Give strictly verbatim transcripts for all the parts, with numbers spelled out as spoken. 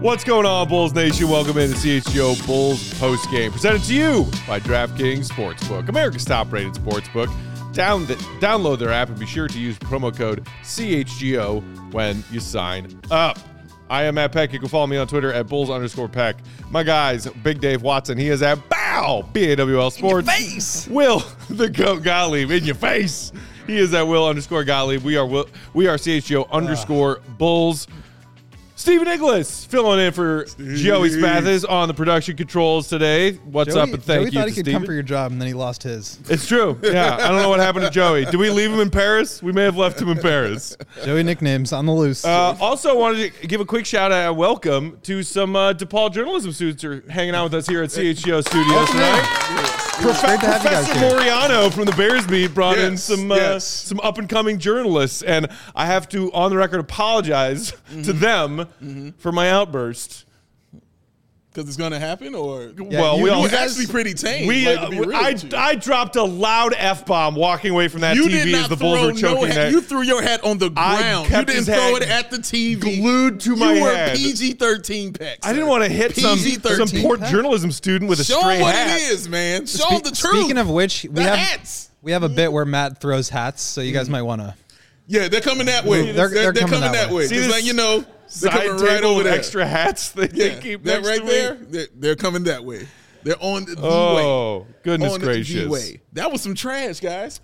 What's going on, Bulls Nation? Welcome into C H G O Bulls postgame, presented to you by DraftKings Sportsbook, America's top-rated sportsbook. Down the, download their app and be sure to use promo code C H G O when you sign up. I am Matt Peck. You can follow me on Twitter at Bulls underscore Peck. My guys, Big Dave Watson, he is at Bow, B A W L Sports. In your face. Will, the GOAT Gottlieb, in your face. He is at Will underscore Gottlieb. We are Will, we are C H G O underscore Bulls. Steven Inglis filling in for Steve. Joey Spathis on the production controls today. What's Joey, up and thank Joey you thought to he could Steven. come for your job, and then he lost his. It's true. Yeah, I don't know what happened to Joey. Did we leave him in Paris? We may have left him in Paris. Joey nicknames on the loose. Uh, also, wanted to give a quick shout out and welcome to some uh, DePaul journalism students who are hanging out with us here at C H G O Studios tonight. Prof- great to have you guys Professor here. Moriano from the Bears Beat brought in Yes, some uh, yes. some up and coming journalists, and I have to, on the record, apologize Mm-hmm. to them mm-hmm. for my outburst. Because it's going to happen, or Yeah, well, you- we you all it's actually pretty tame. we like, uh, to be real I, with you. I dropped a loud F bomb walking away from that you T did V not as the throw Bulls were no choking hat. that. You threw your hat on the I ground. You kept didn't his throw head it at the T V. glued to my you head. were P G thirteen Peck. I didn't want to hit some, P G some thirteen poor pack. journalism student with a Show stray them what hat. it is, man. Show Spe- them the truth. Speaking of which, we the have hats. we have a bit where Matt throws hats, so you guys might want to. Yeah, they're coming that way. They're- They're, they're coming, coming that that way. way. See Just this like, you know, they're Side coming right table over with there. extra hats that Yeah, they keep that next right to me. there, they're, they're coming that way. They're on the Oh, way. goodness on gracious. The way. That was some trash, guys.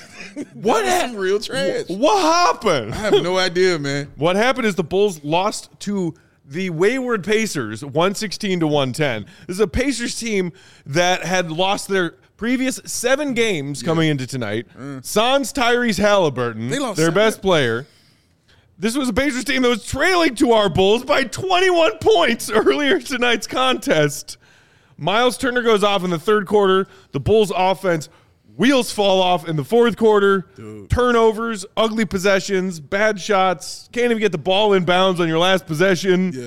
What that was hap- some real trash. What happened? I have no idea, man. What happened is the Bulls lost to the wayward Pacers, one sixteen to one ten. This is a Pacers team that had lost their previous seven games coming into tonight. Sans Tyrese Halliburton, They lost their seven. best player. This was a Pacers team that was trailing to our Bulls by twenty-one points earlier tonight's contest. Miles Turner goes off in the third quarter. The Bulls offense wheels fall off in the fourth quarter. Dude. Turnovers, ugly possessions, bad shots. Can't even get the ball in bounds on your last possession. Yeah.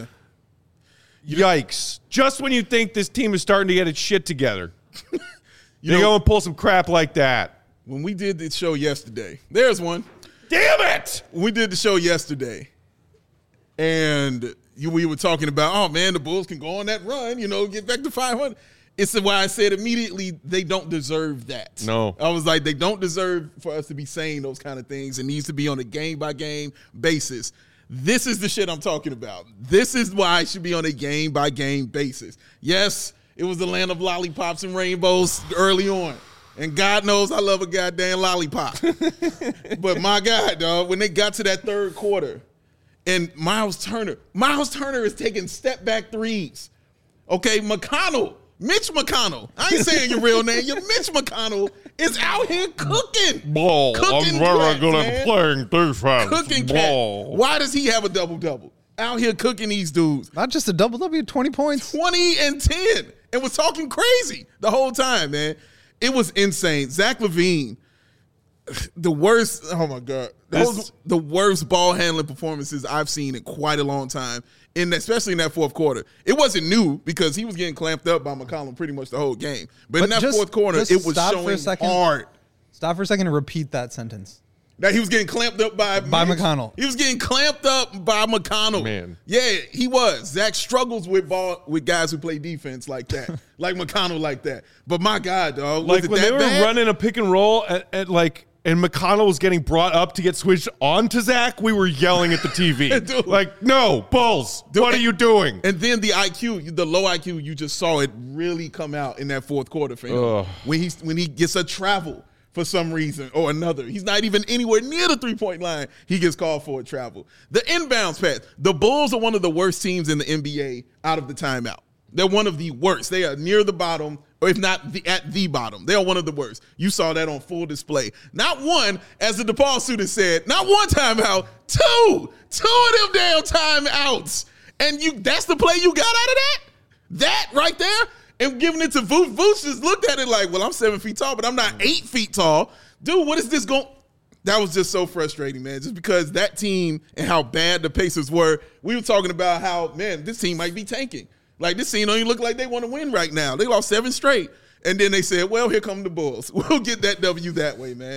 Yikes. Just when you think this team is starting to get its shit together, You you know, go and pull some crap like that. when we did the show yesterday, there's one. Damn it! When we did the show yesterday, and you, we were talking about, oh, man, the Bulls can go on that run, you know, get back to five hundred. It's why I said immediately they don't deserve that. No. I was like, they don't deserve for us to be saying those kind of things. It needs to be on a game-by-game basis. This is the shit I'm talking about. This is why it should be on a game-by-game basis. Yes, it was the land of lollipops and rainbows early on. And God knows I love a goddamn lollipop. But my God, dog, when they got to that third quarter, and Miles Turner, Miles Turner is taking step-back threes. Okay, McConnell, Mitch McConnell. I ain't saying your real name. Your Mitch McConnell is out here cooking. Ball. Cooking cats, man. playing defense. Cooking cat. Why does he have a double-double? Out here cooking these dudes. Not just a double W, twenty points. twenty and ten. And was talking crazy the whole time, man. It was insane. Zach LaVine, the worst, oh my God, those This- the worst ball handling performances I've seen in quite a long time, in especially in that fourth quarter. It wasn't new because he was getting clamped up by McCollum pretty much the whole game. But, But in that just- fourth quarter, just it was stop for a showing second. hard. Stop for a second and repeat that sentence. That he was getting clamped up by By Mitch. McConnell. He was getting clamped up by McConnell. Man. Yeah, he was. Zach struggles with ball with guys who play defense like that, like McConnell like that. But my God, dog, was Like it when that they were bad? running a pick and roll at, at like, and McConnell was getting brought up to get switched on to Zach, we were yelling at the T V. Dude. Like, no, Bulls, Dude, what are and- you doing? And then the I Q, the low I Q, you just saw it really come out in that fourth quarter for him. Ugh. When he when he gets a travel for some reason or another. He's not even anywhere near the three-point line. He gets called for a travel. The inbounds pass. The Bulls are one of the worst teams in the N B A out of the timeout. They're one of the worst. They are near the bottom, or if not the, at the bottom. They are one of the worst. You saw that on full display. Not one, as the DePaul student said, not one timeout, two. Two of them damn timeouts. And you that's the play you got out of that? That right there? And giving it to Vooch. Vooch just looked at it like, well, I'm seven feet tall, but I'm not eight feet tall. Dude, what is this going? That was just so frustrating, man. Just because that team and how bad the Pacers were, we were talking about how, man, this team might be tanking. Like, this team don't even look like they want to win right now. They lost seven straight. And then they said, well, here come the Bulls. We'll get that W that way, man.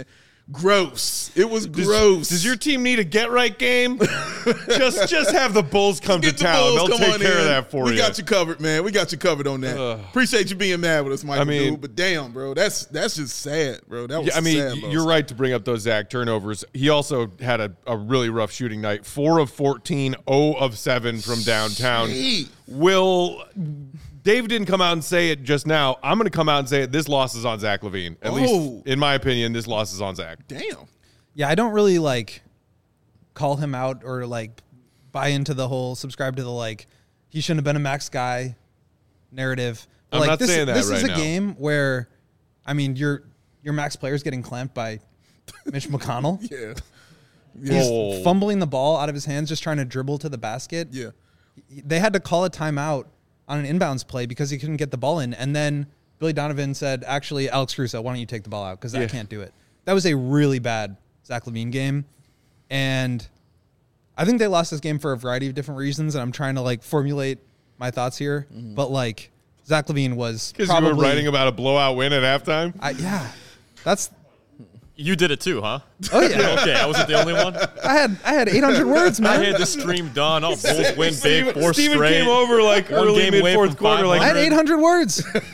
gross. It was Does, gross. does your team need a get right game? just just have the Bulls come Get to the town. Bulls, They'll come take on care in. of that for we you. We got you covered, man. We got you covered on that. Ugh. Appreciate you being mad with us, Michael. I mean- dude, but damn, bro, that's that's just sad, bro. That was Yeah, I mean, sad. y- loss. you're right to bring up those Zach turnovers. He also had a, a really rough shooting night. Four of fourteen, zero of seven from downtown. Jeez. Will Dave didn't come out and say it just now. I'm going to come out and say it. This loss is on Zach LaVine. At Oh. least, in my opinion, this loss is on Zach. Damn. Yeah, I don't really like call him out or like buy into the whole subscribe to the like he shouldn't have been a max guy narrative. But, I'm like, not this, saying that This right is a now. game where, I mean, your your max player's getting clamped by Mitch McConnell. Yeah. He's Whoa. fumbling the ball out of his hands, just trying to dribble to the basket. Yeah. They had to call a timeout on an inbounds play because he couldn't get the ball in. And then Billy Donovan said, actually, Alex Caruso, why don't you take the ball out? Because I Yeah. can't do it. That was a really bad Zach LaVine game. And I think they lost this game for a variety of different reasons. And I'm trying to like formulate my thoughts here. Mm-hmm. But like Zach LaVine was Because you probably were writing about a blowout win at halftime? I, yeah, that's You did it too, huh? oh yeah. Okay, I wasn't the only one. I had I had eight hundred words, I man. had the stream done. Oh, Bulls win big, four Steven straight. came over like One early game mid away fourth from quarter. Like, I had eight hundred words.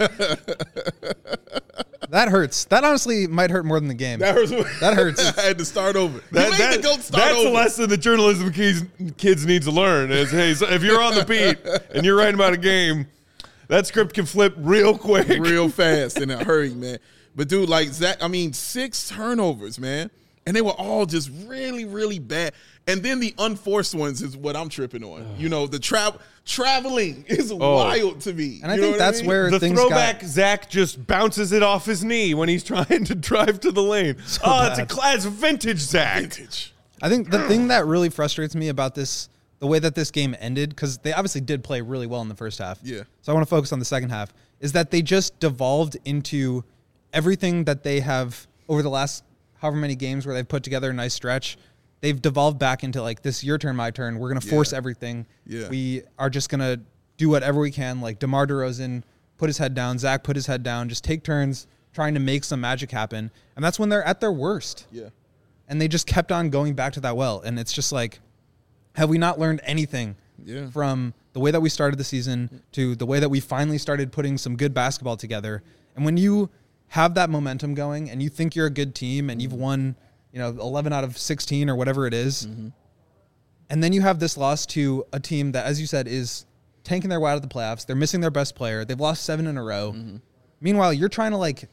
That That hurts. That honestly might hurt more than the game. hurts. That hurts. I had to start over. That- you made that- the goat start that's over. the lesson that journalism kids, kids need to learn is, hey, so if you're on the beat and you're writing about a game, that script can flip real quick. real fast in a hurry, man. But dude, like Zach, I mean, six turnovers, man, and they were all just really, really bad. And then the unforced ones is what I'm tripping on. You know, the travel traveling is wild to me. And I You know think what that's mean? where The things throwback, got. Zach just bounces it off his knee when he's trying to drive to the lane. oh, it's a bad. class vintage Zach. Vintage. I think the thing that really frustrates me about this, the way that this game ended, because they obviously did play really well in the first half. Yeah. So I want to focus on the second half. Is that they just devolved into everything that they have over the last however many games where they've put together a nice stretch. They've devolved back into like this your turn, my turn. We're gonna force Yeah. everything. Yeah. We are just gonna do whatever we can. Like DeMar DeRozan put his head down, Zach put his head down, just take turns trying to make some magic happen. And that's when they're at their worst. Yeah. And they just kept on going back to that well. And it's just like, have we not learned anything Yeah. from the way that we started the season to the way that we finally started putting some good basketball together? And when you have that momentum going and you think you're a good team and you've won, you know, eleven out of sixteen or whatever it is, and then you have this loss to a team that, as you said, is tanking their way out of the playoffs. They're missing their best player. They've lost seven in a row. Meanwhile, you're trying to like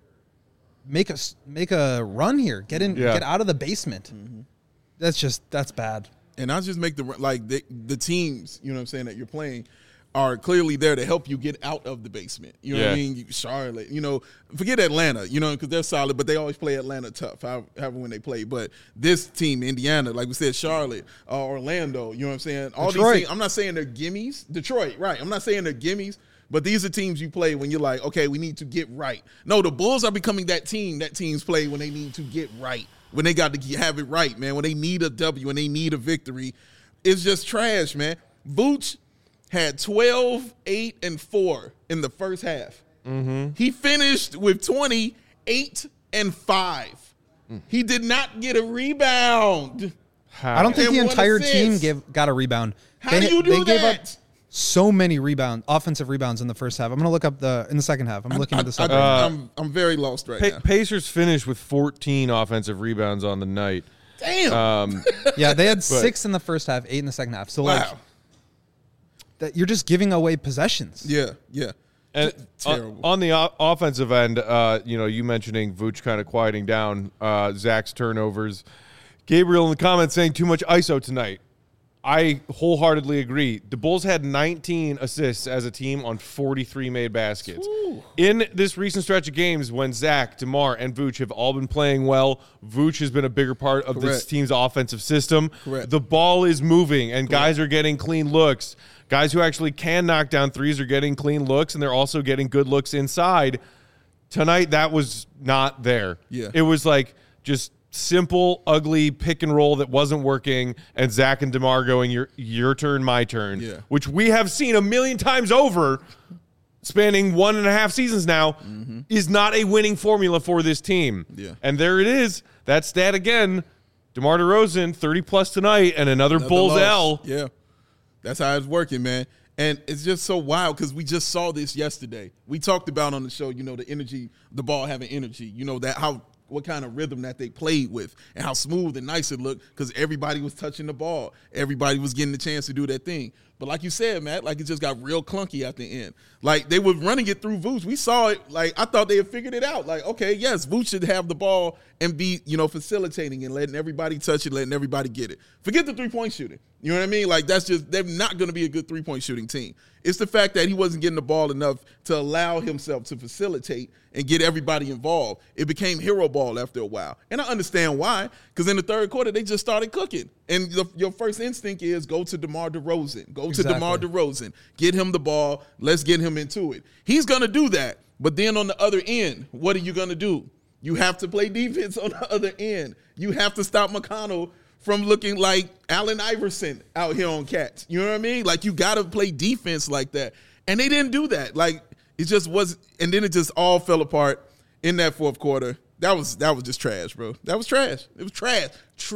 make a s- make a run here, get in, Yeah. get out of the basement. That's just that's bad. And I just make the like the, the teams, you know what I'm saying, that you're playing are clearly there to help you get out of the basement. You know what I Yeah. mean? You- Charlotte, you know, forget Atlanta, you know, because they're solid, but they always play Atlanta tough, however, however when they play. But this team, Indiana, like we said, Charlotte, uh, Orlando, you know what I'm saying? All Detroit. these teams, I'm not saying they're gimmies. Detroit, right. I'm not saying they're gimmies, but these are teams you play when you're like, okay, we need to get right. No, the Bulls are becoming that team that teams play when they need to get right, when they got to get- have it right, man, when they need a W, when they need a victory. It's just trash, man. Vooch had twelve, eight, and four in the first half. Mm-hmm. He finished with twenty, eight, and five. He did not get a rebound. I don't think And the one entire assist. team gave got a rebound. How They- do you do they that? gave up so many rebound offensive rebounds in the first half. I'm gonna look up the in the second half. I'm looking I, at the second. I, I'm, I'm very lost right Pa- now. Pacers finished with fourteen offensive rebounds on the night. Damn. Um, yeah, they had six in the first half, eight in the second half. So like wow. that, you're just giving away possessions. Yeah, yeah. And Terrible. on, on the o- offensive end, uh, you know, you mentioning Vooch kind of quieting down, uh, Zach's turnovers. Gabriel in the comments saying too much I S O tonight. I wholeheartedly agree. The Bulls had nineteen assists as a team on forty-three made baskets. Ooh. In this recent stretch of games when Zach, DeMar, and Vooch have all been playing well, Vooch has been a bigger part of this Correct. team's offensive system. Correct. The ball is moving, and guys are getting clean looks. Guys who actually can knock down threes are getting clean looks, and they're also getting good looks inside. Tonight, that was not there. Yeah. It was like just simple, ugly pick and roll that wasn't working, and Zach and DeMar going, your, your turn, my turn, Yeah. which we have seen a million times over spanning one and a half seasons now, mm-hmm. is not a winning formula for this team. Yeah. And there it is. That stat again. DeMar DeRozan, thirty plus tonight, and another, another Bulls loss. L. Yeah. That's how it's working, man. And it's just so wild because we just saw this yesterday. We talked about on the show, you know, the energy, the ball having energy, you know, that how what kind of rhythm that they played with and how smooth and nice it looked because everybody was touching the ball. Everybody was getting the chance to do their thing. But like you said, Matt, like it just got real clunky at the end. Like they were running it through Vooch. We saw it. Like I thought they had figured it out. Like, okay, yes, Vooch should have the ball and be, you know, facilitating and letting everybody touch it, letting everybody get it. Forget the three-point shooting. You know what I mean? Like that's just, they're not going to be a good three-point shooting team. It's the fact that he wasn't getting the ball enough to allow himself to facilitate and get everybody involved. It became hero ball after a while. And I understand why, because in the third quarter, they just started cooking. And the, your first instinct is go to DeMar DeRozan. Go exactly. to DeMar DeRozan. Get him the ball. Let's get him into it. He's going to do that. But then on the other end, what are you going to do? You have to play defense on the other end. You have to stop McConnell from looking like Allen Iverson out here on Cats. You know what I mean? Like, you got to play defense like that. And they didn't do that. Like, it just was, and then it just all fell apart in that fourth quarter. That was that was just trash, bro. That was trash. It was trash.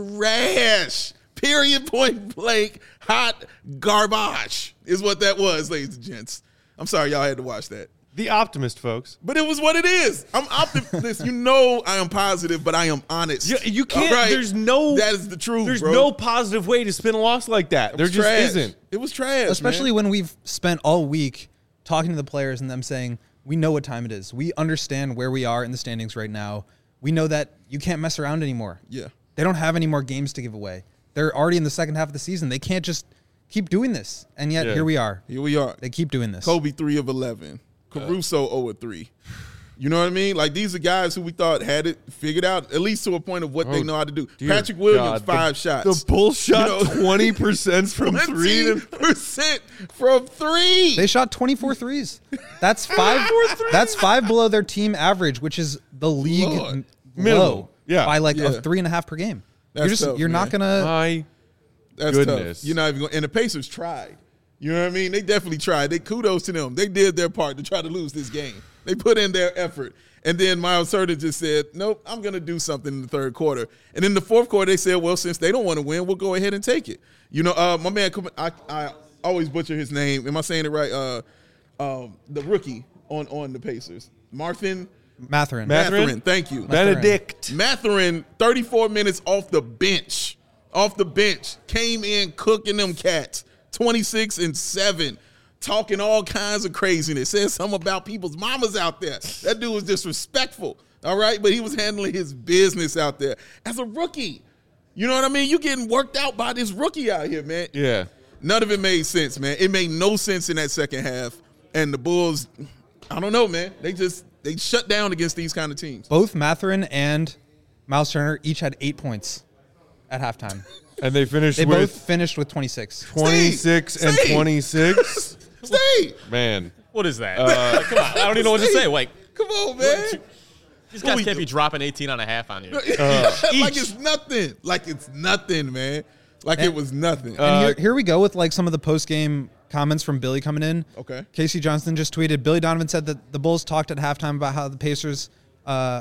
Trash. Period, point blank, hot garbage is what that was, ladies and gents. I'm sorry y'all had to watch that. The optimist, folks. But it was what it is. I'm optimist. You know I am positive, but I am honest. You, you can't. Right? There's no. That is the truth, There's bro. no positive way to spin a loss like that. There just trash. isn't. It was trash, Especially man. when we've spent all week talking to the players and them saying, we know what time it is. We understand where we are in the standings right now. We know that you can't mess around anymore. Yeah. They don't have any more games to give away. They're already in the second half of the season. They can't just keep doing this. And yet, Yeah. here we are. Here we are. They keep doing this. Kobe three of eleven. Caruso zero of three. You know what I mean? Like, these are guys who we thought had it figured out, at least to a point of what they know how to do. Dear Patrick Williams, God. five the, shots. The Bulls shot You know, twenty percent from three. twenty percent from three. They shot twenty-four threes. That's five. That's five below their team average, which is the league Lord. m- Minimum. low Yeah. by like Yeah. a three and a half per game. That's you're just tough, you're not man. gonna. My That's goodness. tough. You're not even going. And the Pacers tried. You know what I mean? They definitely tried. They kudos to them. They did their part to try to lose this game. They put in their effort. And then Miles Turner just said, nope, I'm going to do something in the third quarter. And in the fourth quarter, they said, well, since they don't want to win, we'll go ahead and take it. You know, uh, my man, I, I always butcher his name. Am I saying it right? Uh, um, the rookie on, on the Pacers. Marthin Mathurin. Mathurin? Mathurin. Thank you. Benedict. Mathurin, thirty-four minutes off the bench. Off the bench. Came in cooking them cats. twenty-six and seven. Talking all kinds of craziness. Said something about people's mamas out there. That dude was disrespectful. All right? But he was handling his business out there as a rookie. You know what I mean? You getting worked out by this rookie out here, man. Yeah. None of it made sense, man. It made no sense in that second half. And the Bulls, I don't know, man. They just, they shut down against these kind of teams. Both Mathurin and Miles Turner each had eight points at halftime. And they finished They with both finished with twenty-six. twenty-six Steve, and Steve. twenty-six. Stay. Man. What is that? Like, come on. I don't even know what to say. Like, Come on, man. these What guys we can't do? be dropping eighteen and a half on you. like Each. it's nothing. Like it's nothing, man. Like it was nothing. Uh, And here, here we go with like some of the post-game comments from Billy coming in. Okay. Casey Johnson just tweeted, Billy Donovan said that the Bulls talked at halftime about how the Pacers, uh,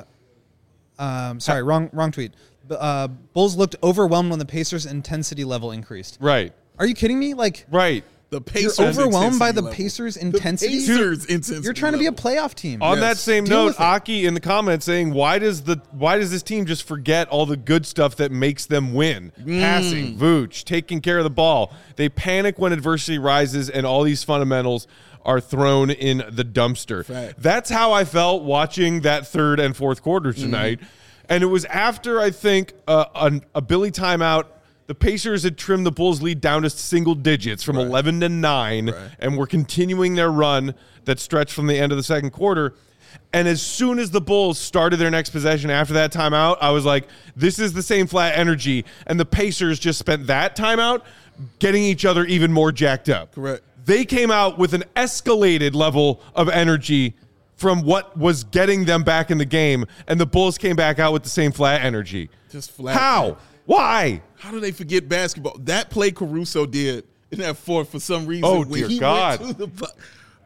um, sorry, wrong wrong tweet. Uh, Bulls looked overwhelmed when the Pacers' intensity level increased. Right. Are you kidding me? Like, Right. the you're Pacers overwhelmed by intensity the level. Pacers' intensity? The Pacers intensity. You're trying to be a level. playoff team. On Yes. that same Deal note, with it. Aki in the comments saying, "Why does the why does this team just forget all the good stuff that makes them win? Mm. Passing, Vooch, taking care of the ball. They panic when adversity rises, and all these fundamentals are thrown in the dumpster." Fact. That's how I felt watching that third and fourth quarter tonight, and it was after I think uh, a, a Billy timeout. The Pacers had trimmed the Bulls' lead down to single digits from Right. eleven to nine, Right. and were continuing their run that stretched from the end of the second quarter. And as soon as the Bulls started their next possession after that timeout, I was like, this is the same flat energy. And the Pacers just spent that timeout getting each other even more jacked up. Correct. They came out with an escalated level of energy from what was getting them back in the game, and the Bulls came back out with the same flat energy. Just flat. How? Why? How do they forget basketball? That play Caruso did in that fourth for some reason. Oh, when dear he God. Went to the, bu-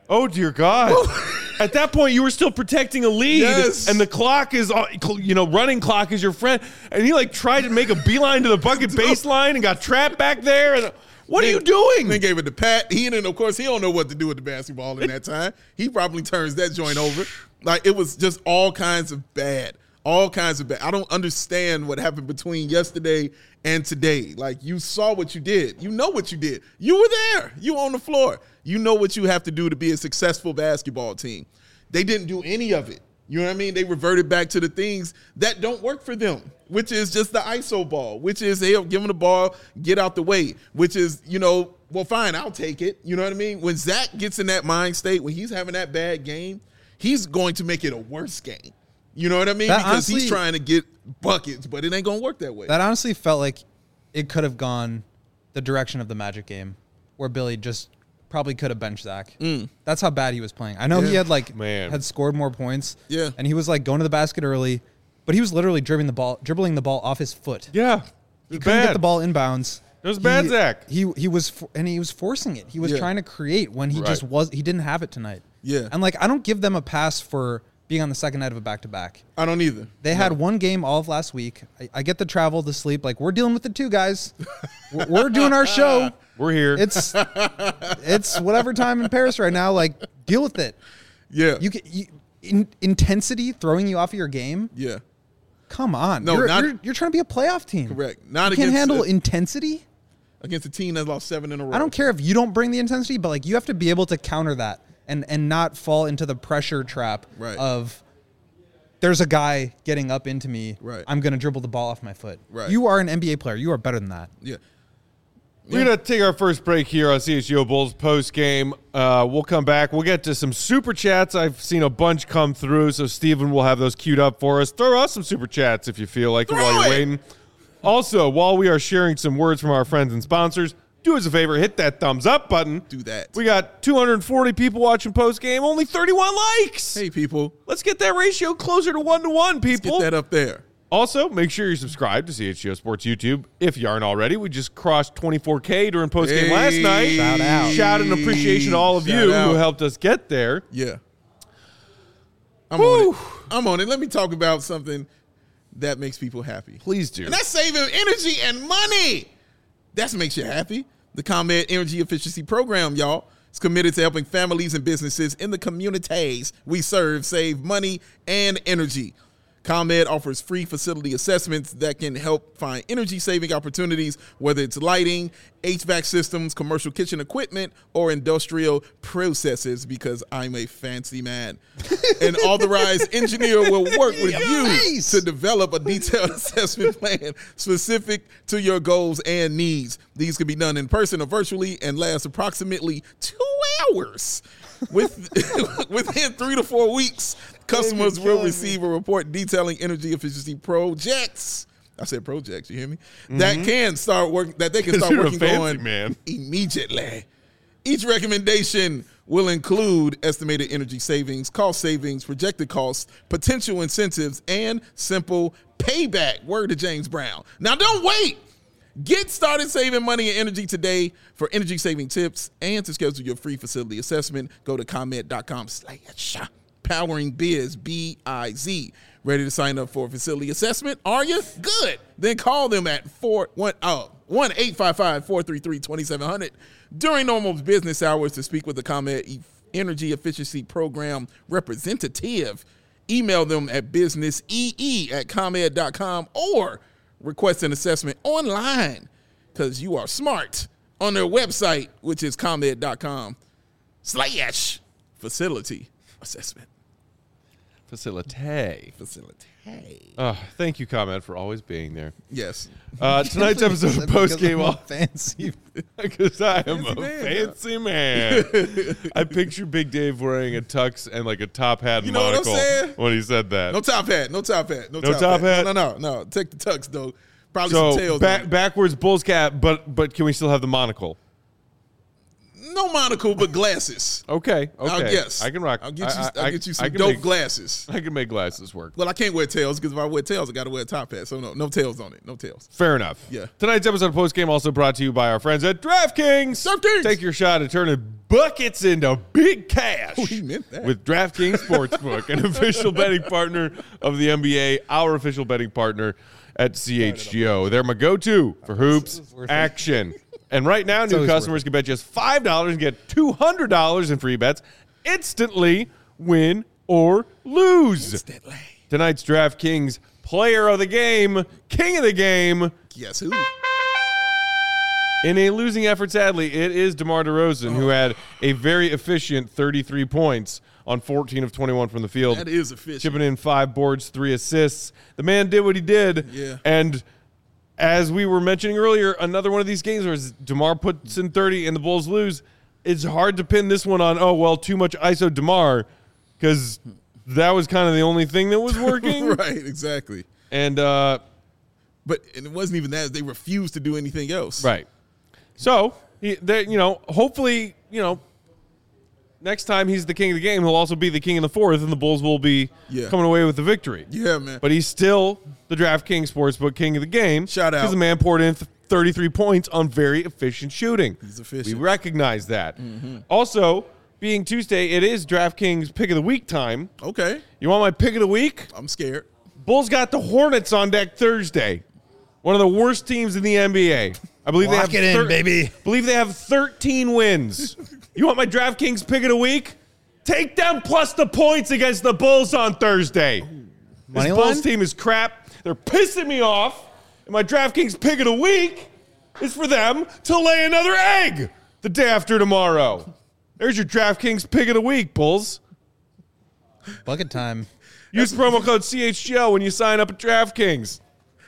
Oh, dear God. At that point, you were still protecting a lead, Yes. and the clock is, uh, you know, running clock is your friend. And he, like, tried to make a beeline to the bucket baseline and got trapped back there. And what are you doing? Then gave it to Pat. He didn't, of course, he don't know what to do with the basketball in that time. He probably turns that joint over. Like, it was just all kinds of bad. All kinds of bad. I don't understand what happened between yesterday and today. Like, you saw what you did. You know what you did. You were there. You were on the floor. You know what you have to do to be a successful basketball team. They didn't do any of it. You know what I mean? They reverted back to the things that don't work for them, which is just the I S O ball, which is, hey, give them the ball, get out the way, which is, you know, well, fine, I'll take it. You know what I mean? When Zach gets in that mind state, when he's having that bad game, he's going to make it a worse game. You know what I mean? That because honestly, he's trying to get buckets, but it ain't going to work that way. That honestly felt like it could have gone the direction of the Magic game, where Billy just probably could have benched Zach. Mm. That's how bad he was playing. I know Yeah. he had like Man. had scored more points. Yeah. And he was like going to the basket early, but he was literally dribbling the ball, dribbling the ball off his foot. Yeah. He It's couldn't bad. get the ball inbounds. It was He- bad, Zach. He he was for, and he was forcing it. He was Yeah. trying to create when he Right. just was. He didn't have it tonight. Yeah. And like I don't give them a pass for being on the second night of a back to back. I don't either. They had one game all of last week. I, I get the travel, the sleep. Like we're dealing with it too, guys. we're, we're doing our show. We're here. It's it's whatever time in Paris right now. Like deal with it. Yeah. You can you, in, intensity throwing you off of your game. yeah. Come on. No, you're, not- you're, you're trying to be a playoff team. Correct. Not You can't against handle the- intensity. Against a team that lost seven in a row. I don't care if you don't bring the intensity, but like you have to be able to counter that and and not fall into the pressure trap Right. of there's a guy getting up into me. Right. I'm going to dribble the ball off my foot. Right. You are an N B A player. You are better than that. Yeah. We're going to take our first break here on C H G O Bulls post game. Uh, we'll come back. We'll get to some super chats. I've seen a bunch come through, so Steven will have those queued up for us. Throw us some super chats if you feel like it Throw while you're it! waiting. Also, while we are sharing some words from our friends and sponsors, do us a favor, hit that thumbs up button. Do that. We got two hundred forty people watching post game, only thirty-one likes. Hey, people. Let's get that ratio closer to one to one, people. Get that up there. Also, make sure you're subscribed to C H G O Sports YouTube if you aren't already. We just crossed twenty-four K during postgame Hey. last night. Shout out. Shout and appreciation to all of Shout you out. who helped us get there. Yeah. I'm Woo. on it. I'm on it. Let me talk about something that makes people happy. Please do. And that's saving energy and money. That makes you happy. The ComEd Energy Efficiency Program, y'all, is committed to helping families and businesses in the communities we serve save money and energy. ComEd offers free facility assessments that can help find energy-saving opportunities, whether it's lighting, H V A C systems, commercial kitchen equipment, or industrial processes, because I'm a fancy man. An authorized engineer will work with you Nice. to develop a detailed assessment plan specific to your goals and needs. These can be done in person or virtually and last approximately two hours. With within three to four weeks, customers will receive a report detailing energy efficiency projects. I said projects, you hear me? That can start working, that they can start You're a working fancy on man. immediately. Each recommendation will include estimated energy savings, cost savings, projected costs, potential incentives, and simple payback. Word to James Brown. Now don't wait. Get started saving money and energy today. For energy saving tips and to schedule your free facility assessment, go to ComEd.com slash powering biz, B I Z. Ready to sign up for a facility assessment? Are you? Good. Then call them at four one oh one eight five five, four three three, two seven zero zero during normal business hours to speak with the ComEd E- Energy Efficiency Program representative. Email them at businessee at ComEd dot com or request an assessment online because you are smart on their website, which is ComEd dot com slash facility assessment. Facility. Facility. Oh, thank you, ComEd, for always being there. Yes. Uh, tonight's episode of Because post game I'm a off fancy. because I am a man, fancy man. I picture Big Dave wearing a tux and like a top hat and You know what I'm monocle saying? when he said that. No top hat. No top hat. No, No top hat? No, no, no, no. Take the tux, though. Probably some So tails. back, on it. backwards Bulls cap, but but can we still have the monocle? no monocle, but glasses. Okay, okay. I'll guess. I can rock. I'll get you. I, I'll I, get you I some can dope make, glasses. I can make glasses work. Well, I can't wear tails because if I wear tails, I got to wear a top hat. So no, no tails on it. No tails. Fair enough. Yeah. Tonight's episode of Post Game also brought to you by our friends at DraftKings. DraftKings. Take your shot at turning buckets into big cash. Oh, he meant that. With DraftKings Sportsbook, an official betting partner of the N B A, our official betting partner at C H G O. They're my go-to for hoops action. And right now, new customers can bet just five dollars and get two hundred dollars in free bets instantly, win or lose. Instantly. Tonight's DraftKings player of the game, king of the game. Guess who? In a losing effort, sadly, it is DeMar DeRozan, who had a very efficient thirty-three points on fourteen of twenty-one from the field. That is efficient. Chipping in five boards, three assists. The man did what he did. Yeah. And as we were mentioning earlier, another one of these games where DeMar puts in thirty and the Bulls lose. It's hard to pin this one on, oh, well, too much I S O DeMar, because that was kind of the only thing that was working. Right, exactly. And, uh, But and it wasn't even that. They refused to do anything else. right. So, he, they, you know, hopefully, you know, next time he's the king of the game, he'll also be the king in the fourth, and the Bulls will be Yeah. coming away with the victory. Yeah, man. But he's still the DraftKings Sportsbook king of the game. Shout out. Because the man poured in th- thirty-three points on very efficient shooting. He's efficient. We recognize that. Mm-hmm. Also, being Tuesday, it is DraftKings pick of the week time. Okay. You want my pick of the week? I'm scared. Bulls got the Hornets on deck Thursday. One of the worst teams in the N B A. I believe Lock they have it in, baby. believe they have thirteen wins. You want my DraftKings pick of the week? Take them plus the points against the Bulls on Thursday. This Money Bulls line? team is crap. They're pissing me off. And my DraftKings pick of the week is for them to lay another egg the day after tomorrow. There's your DraftKings pick of the week, Bulls. Bucket time. Use promo code C H G O when you sign up at DraftKings.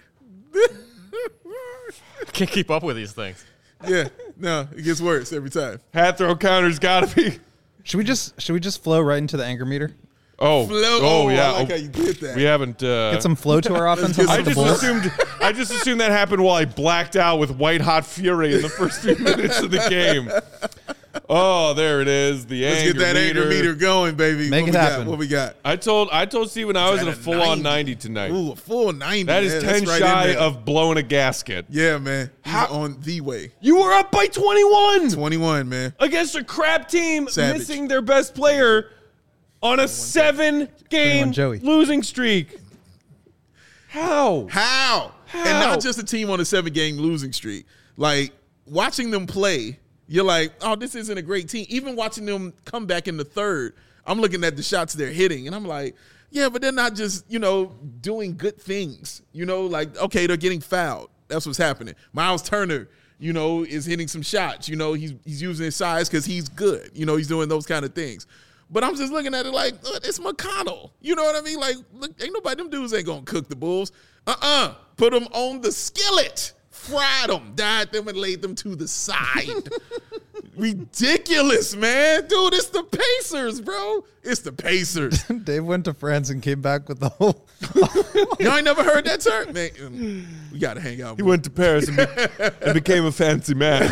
Can't keep up with these things. Yeah. No, it gets worse every time. Hat throw counter's got to be. Should we just should we just flow right into the anger meter? Oh, Flow. oh yeah. I like Oh, how you did that. we haven't. Uh, Get some flow to our offense. get on I the just Bulls. assumed. I just assumed that happened while I blacked out with white hot fury in the first few minutes of the game. Oh, there it is. The Let's anger get that meter. anger meter going, baby. Make what it we happen. Got? What we got? I told. I told Steven I was Is at a that a full on ninety? ninety tonight. Ooh, a full ninety. That is man. ten That's right in shy there. of blowing a gasket. Yeah, man. He's How- on the way. You were up by twenty-one twenty-one, man. against a crap team, Savage. missing their best player on a seven-game Joey. losing streak. How? How? And How? not just a team on a seven-game losing streak. Like, watching them play, you're like, oh, this isn't a great team. Even watching them come back in the third, I'm looking at the shots they're hitting, and I'm like, yeah, but they're not just, you know, doing good things. You know, like, okay, they're getting fouled. That's what's happening. Miles Turner, you know, is hitting some shots. You know, he's he's using his size because he's good. You know, he's doing those kind of things. But I'm just looking at it like, uh, it's McConnell. You know what I mean? Like, look, ain't nobody, them dudes ain't going to cook the Bulls. Uh-uh. Put them on the skillet. Fried them. Dyed them and laid them to the side. Ridiculous, man. Dude, it's the Pacers, bro. It's the Pacers. Dave went to France and came back with the whole. Y'all ain't never heard that term? Man, um, we got to hang out. He went to Paris and, be- and became a fancy man.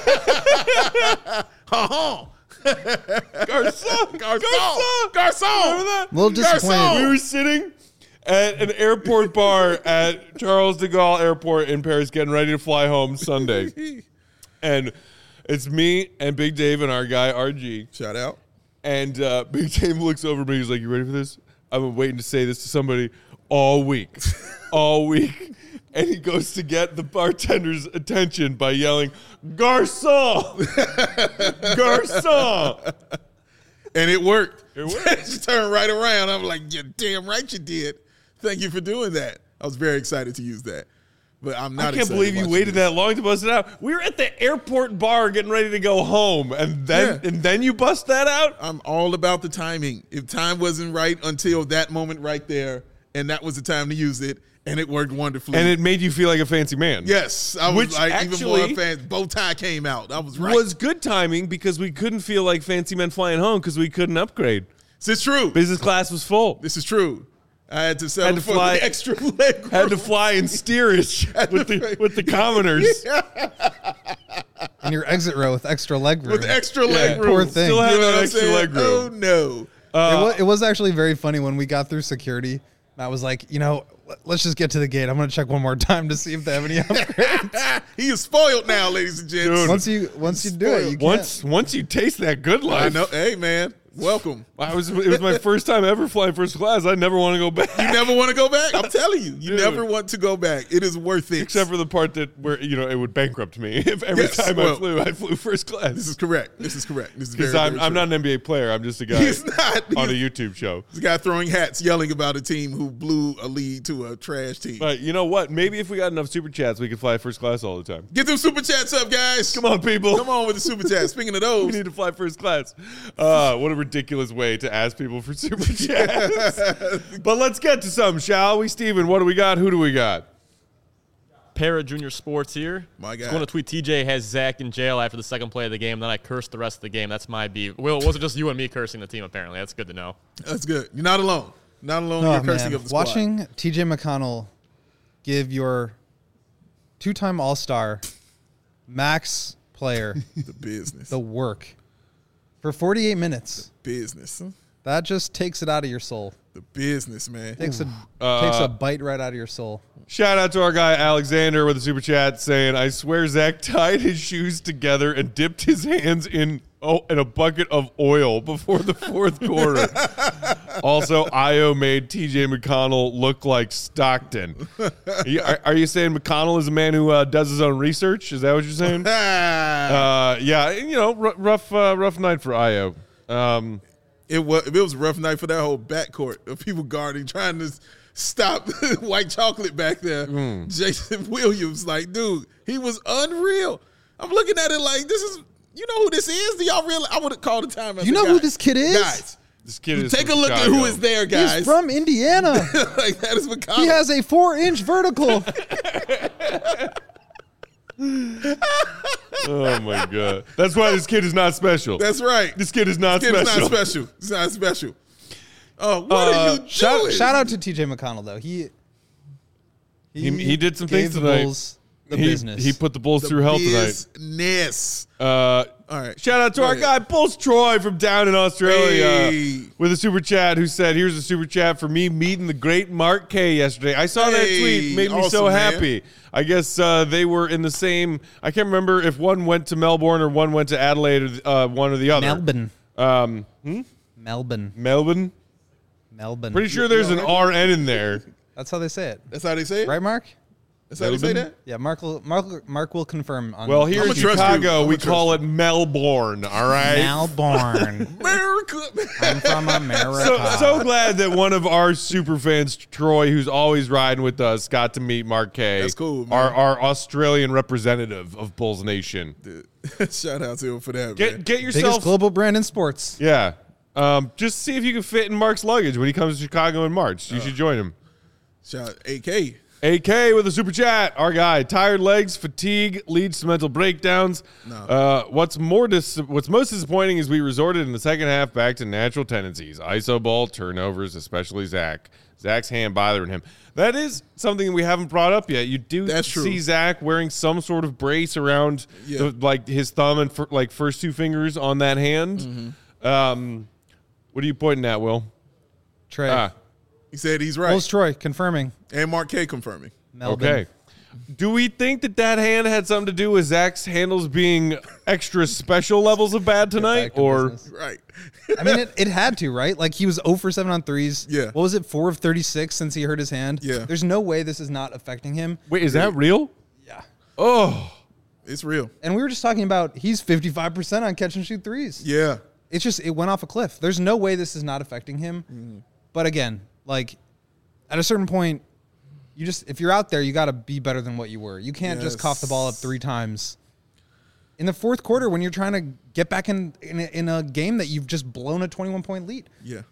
Uh-huh. Garcon! Garcon! Garcon! Remember that? A little disappointed. Garcon! We were sitting at an airport bar at Charles de Gaulle Airport in Paris, getting ready to fly home Sunday. And it's me and Big Dave and our guy, R G. Shout out. And uh, Big Dave looks over at me. He's like, you ready for this? I've been waiting to say this to somebody all week. all week. And he goes to get the bartender's attention by yelling, Garçon! Garçon! And it worked. It worked. She turned right around. I'm like, you're damn right you did. Thank you for doing that. I was very excited to use that. But I'm not I can't excited believe you watching waited this. that long to bust it out. We were at the airport bar getting ready to go home, and then Yeah. and then you bust that out? I'm all about the timing. If time wasn't right until that moment right there, and that was the time to use it, and it worked wonderfully. And it made you feel like a fancy man. yes, I was Which like even more actually fan. Bow tie came out. I was right. Was good timing because we couldn't feel like fancy men flying home because we couldn't upgrade. this is true. Business class was full. This is true. I had to settle Had to for fly- the extra leg room. Had to fly in steerage with the with the commoners. in your exit row with extra leg room. With extra leg room. Poor thing. Still You have know what that I'm extra saying? leg room. Oh, no. it, was, it was actually very funny when we got through security. Matt was like, you know, let- let's just get to the gate. I'm going to check one more time to see if they have any upgrades. He is spoiled now, ladies and gents. Dude. once you once you do it, you can't. Once once you taste that good life, I know. Hey, man. Welcome. I was it was my first time ever flying first class. I never want to go back. You never want to go back? I'm telling you. You Dude. never want to go back. It is worth it. Except for the part that where you know it would bankrupt me if every Yes, time well, I flew I flew first class. This is correct. This is correct. This is very, Because I'm very I'm true. not an N B A player. I'm just a guy He's not. on a He's- YouTube show. This guy throwing hats, yelling about a team who blew a lead to a trash team. But you know what? Maybe if we got enough super chats, we could fly first class all the time. Get them super chats up, guys. Come on, people. Come on with the super chats. Speaking of We those, need to fly first class. Uh, what a ridiculous way to ask people for super chats. But let's get to some, shall we? Steven, what do we got? Who do we got? Para Junior Sports here. My Just God. going to tweet T J has Zach in jail after the second play of the game. Then I cursed the rest of the game. That's my beef. Will, it wasn't just you and me cursing the team, apparently. That's good to know. that's good. You're not alone. Not alone. Oh, You're cursing man. of the squad. Watching T J McConnell give your two-time All-Star max player the business. the work for forty-eight minutes, business. that just takes it out of your soul. The business, man. Takes a Uh, takes a bite right out of your soul. Shout out to our guy Alexander with a super chat saying, "I swear Zach tied his shoes together and dipped his hands in oh in a bucket of oil before the fourth quarter." Also, Io made T J McConnell look like Stockton. Are you, are, are you saying McConnell is a man who uh, does his own research? Is that what you're saying? Ah, uh, yeah, you know, r- rough uh, rough night for Io. Um, it was it was a rough night for that whole backcourt of people guarding, trying to stop White Chocolate back there. Mm. Jason Williams, like, dude, he was unreal. I'm looking at it like, this is, you know who this is? Do y'all realize? I would have called the time. You know who this kid is? Guys, this kid is take a from look at Chicago. who is there, guys. He's from Indiana. like, that is McConnell. He has a four-inch vertical. Oh my god, that's why this kid is not special. That's right. This kid is not Kid is special. not special. It's not special. Oh, what Uh, are you doing? shout, shout out to T J McConnell though. He He, he did some gave things the tonight. Bulls the he, business. he put the Bulls The through hell tonight. business. Uh, All right. shout out to Go our ahead. guy Bulls Troy from down in Australia Hey. with a super chat who said, "Here's a super chat for me meeting the great Mark K yesterday. I saw that Hey, tweet, made me so awesome, man. happy. I guess uh, they were in the same. I can't remember if one went to Melbourne or one went to Adelaide, or uh, one or the other. Melbourne. Um, hmm? Melbourne. Melbourne. Melbourne. Pretty sure there's an R N in there. That's how they say it. That's how they say it? Right, Mark? That's how they say Melbourne? that? Yeah, Mark will, Mark, Mark will confirm. On Well, here I'ma in trust you. Chicago, I'ma we trust call you. it Melbourne. All right. Melbourne. America. I'm from America. So, so glad that one of our super fans, Troy, who's always riding with us, got to meet Mark K. That's cool, man. Our, our Australian representative of Bulls Nation. Dude, shout out to him for that, Get man. get Biggest yourself. global brand in sports. Yeah. Um, just see if you can fit in Mark's luggage when he comes to Chicago in March. You should join him. Shout out A K. A K with a super chat. Our guy, tired legs, fatigue leads to mental breakdowns. No. Uh, what's more dis- What's most disappointing is we resorted in the second half back to natural tendencies: I S O ball, turnovers, especially Zach. Zach's hand bothering him. That is something we haven't brought up yet. You do That's true. see Zach wearing some sort of brace around, Yeah. the, like his thumb and fir- like first two fingers on that hand. Mm-hmm. Um, what are you pointing at, Will? Trey. Ah, He said he's right. Bulls Troy confirming. And Mark K confirming. Melbourne. okay. Do we think that that hand had something to do with Zach's handles being extra special levels of bad tonight, Back to or business. Right. I mean, it, it had to, right? Like he was zero for seven on threes. Yeah. What was it? four of thirty-six since he hurt his hand. Yeah. There's no way this is not affecting him. wait, is that real? Yeah. Oh, It's real. And we were just talking about he's fifty-five percent on catch and shoot threes. Yeah. It's just, it went off a cliff. There's no way this is not affecting him. Mm-hmm. But again, like at a certain point, you just, if you're out there, you got to be better than what you were. You can't just cough the ball up three times. In the fourth quarter, when you're trying to get back in in a, in a game that you've just blown a twenty-one point lead. Yeah.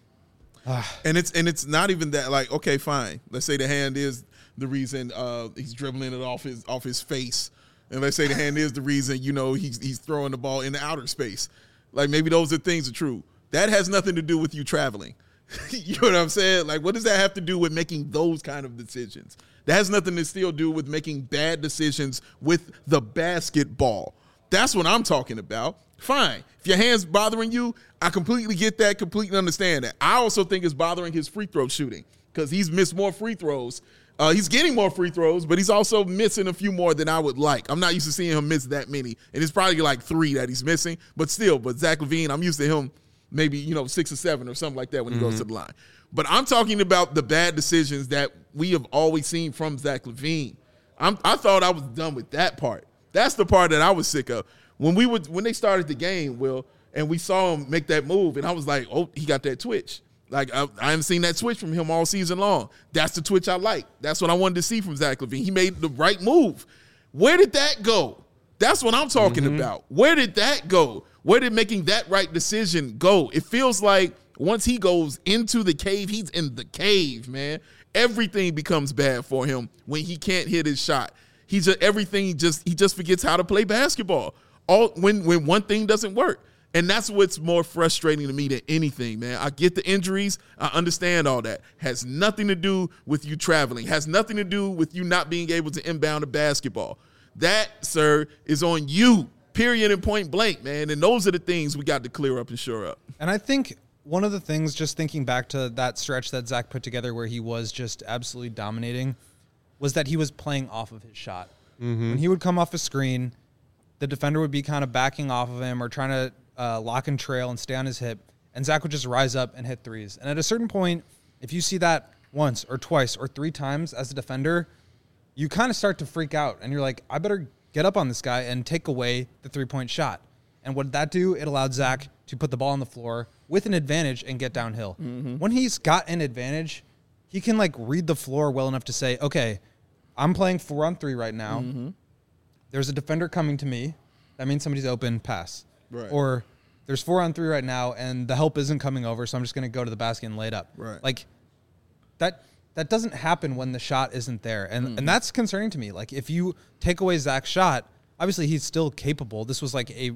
and it's and it's not even that, like, okay, fine. Let's say the hand is the reason uh, he's dribbling it off his off his face. And let's say the hand is the reason, you know, he's he's throwing the ball in the outer space. Like maybe those are things are true. That has nothing to do with you traveling. You know what I'm saying? Like, what does that have to do with making those kind of decisions? That has nothing to still do with making bad decisions with the basketball. That's what I'm talking about. Fine. If your hand's bothering you, I completely get that, completely understand that. I also think it's bothering his free throw shooting because he's missed more free throws. Uh, he's getting more free throws, but he's also missing a few more than I would like. I'm not used to seeing him miss that many, and it's probably like three that he's missing, but still, but Zach LaVine, I'm used to him maybe, you know, six or seven or something like that when he mm-hmm. goes to the line. But I'm talking about the bad decisions that we have always seen from Zach LaVine. I'm, I thought I was done with that part. That's the part that I was sick of. When we would, when they started the game, Will, and we saw him make that move, and I was like, oh, he got that twitch. Like, I, I haven't seen that twitch from him all season long. That's the twitch I like. That's what I wanted to see from Zach LaVine. He made the right move. Where did that go? That's what I'm talking mm-hmm. about. Where did that go? Where did making that right decision go? It feels like once he goes into the cave, he's in the cave, man. Everything becomes bad for him when he can't hit his shot. He just everything just he just forgets how to play basketball. All when when one thing doesn't work. And that's what's more frustrating to me than anything, man. I get the injuries. I understand all that. Has nothing to do with you traveling. Has nothing to do with you not being able to inbound a basketball. That, sir, is on you, period and point blank, man. And those are the things we got to clear up and shore up. And I think one of the things, just thinking back to that stretch that Zach put together where he was just absolutely dominating, was that he was playing off of his shot. Mm-hmm. When he would come off a screen, the defender would be kind of backing off of him or trying to Uh, lock and trail and stay on his hip, and Zach would just rise up and hit threes. And at a certain point, if you see that once or twice or three times as a defender, you kind of start to freak out, and you're like, I better get up on this guy and take away the three-point shot. And what did that do? It allowed Zach to put the ball on the floor with an advantage and get downhill. Mm-hmm. When he's got an advantage, he can like read the floor well enough to say, okay, I'm playing four on three right now. Mm-hmm. There's a defender coming to me. That means somebody's open, pass. Right. Or there's four on three right now, and the help isn't coming over, so I'm just going to go to the basket and lay it up. Right. Like, that that doesn't happen when the shot isn't there. And mm. and that's concerning to me. Like, if you take away Zach's shot, obviously he's still capable. This was like a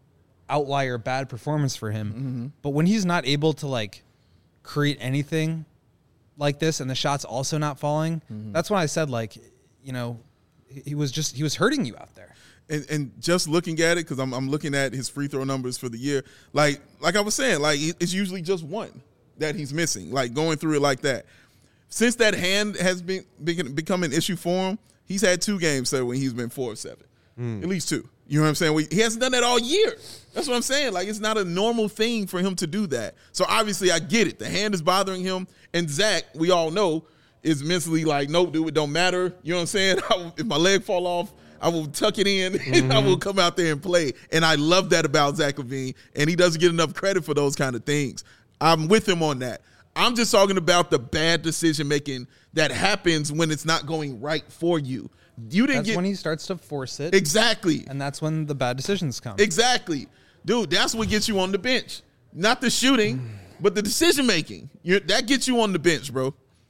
outlier bad performance for him. Mm-hmm. But when he's not able to, like, create anything like this and the shot's also not falling, mm-hmm. that's when I said, like, you know, he was just – he was hurting you out there. And, and just looking at it, because I'm, I'm looking at his free throw numbers for the year, like like I was saying, like it's usually just one that he's missing, like going through it like that. Since that hand has been, been become an issue for him, he's had two games there when he's been four of seven, mm. at least two. You know what I'm saying? We, he hasn't done that all year. That's what I'm saying. Like, it's not a normal thing for him to do that. So obviously I get it. The hand is bothering him, and Zach, we all know, is mentally like, nope, dude, it don't matter. You know what I'm saying? If my leg fall off, I will tuck it in, mm-hmm. and I will come out there and play. And I love that about Zach LaVine, and he doesn't get enough credit for those kind of things. I'm with him on that. I'm just talking about the bad decision-making that happens when it's not going right for you. You didn't that's get, when he starts to force it. Exactly. And that's when the bad decisions come. Exactly. Dude, that's what gets you on the bench. Not the shooting, but the decision-making. You're, that gets you on the bench, bro.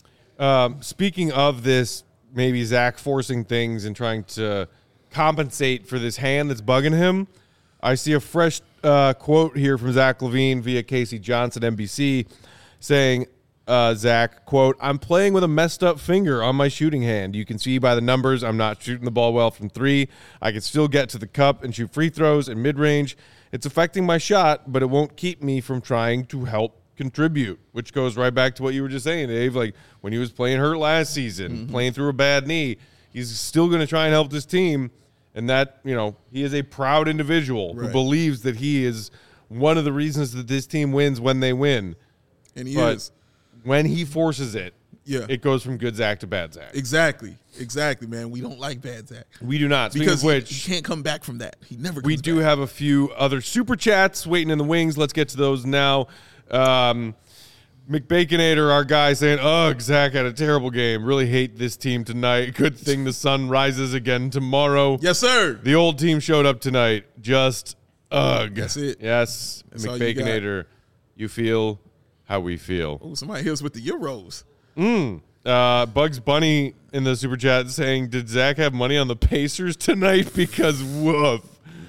Um, speaking of this, maybe Zach forcing things and trying to compensate for this hand that's bugging him, I see a fresh uh, quote here from Zach LaVine via Casey Johnson, N B C, saying, uh, Zach, quote, I'm playing with a messed up finger on my shooting hand. You can see by the numbers I'm not shooting the ball well from three. I can still get to the cup and shoot free throws and mid-range. It's affecting my shot, but it won't keep me from trying to help contribute, which goes right back to what you were just saying, Dave. Like, when he was playing hurt last season, mm-hmm. playing through a bad knee, he's still going to try and help this team. And that, you know, he is a proud individual right. who believes that he is one of the reasons that this team wins when they win. And he but is. When he forces it, yeah, it goes from good Zach to bad Zach. Exactly. Exactly, man. We don't like bad Zach. We do not. Speaking because of which, he can't come back from that. He never comes We do back. have a few other super chats waiting in the wings. Let's get to those now. Um, McBaconator, our guy, saying, ugh, Zach had a terrible game. Really hate this team tonight. Good thing the sun rises again tomorrow. Yes, sir. The old team showed up tonight. Just ugh. That's it. Yes, That's McBaconator, you, you feel how we feel. Oh, somebody hits with the Euros. Mm. Uh, Bugs Bunny in the super chat saying, did Zach have money on the Pacers tonight? Because woof.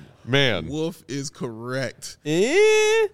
Man. Wolf is correct. Eh?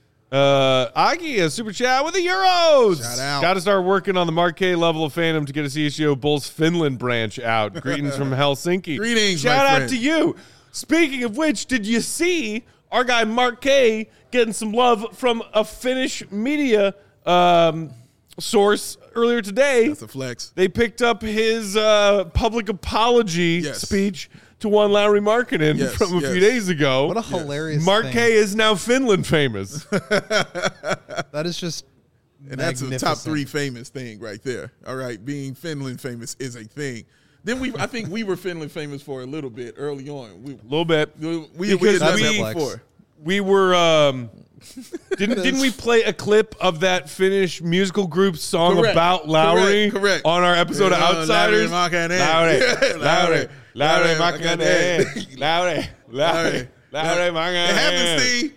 Uh, Aki, a super chat with the Euros. Shout out. Got to start working on the Marquee level of fandom to get a C H G O Bulls Finland branch out. Greetings from Helsinki. Greetings, Shout my out friend. to you. Speaking of which, did you see our guy Mark K getting some love from a Finnish media um, source earlier today? That's a flex. They picked up his uh, public apology Yes. speech to one Lauri Markkanen Yes, from a yes. few days ago. What a hilarious Mark thing. K is now Finland famous. That is just And that's a top magnificent. three famous thing right there. All right, being Finland famous is a thing. Then we, I think we were Finland famous for a little bit early on. We, A little bit. we, we, we Because had done we- that before. We were um, didn't didn't we play a clip of that Finnish musical group song Correct. about Lowry Correct, correct. on our episode of Yeah, Outsiders? Lauri Markkanen. Lowry, Yeah, Lowry, Lowry Lauri Markkanen, Markkanen. Lowry, Lowry, Lowry Markkanen. It happened, Steve.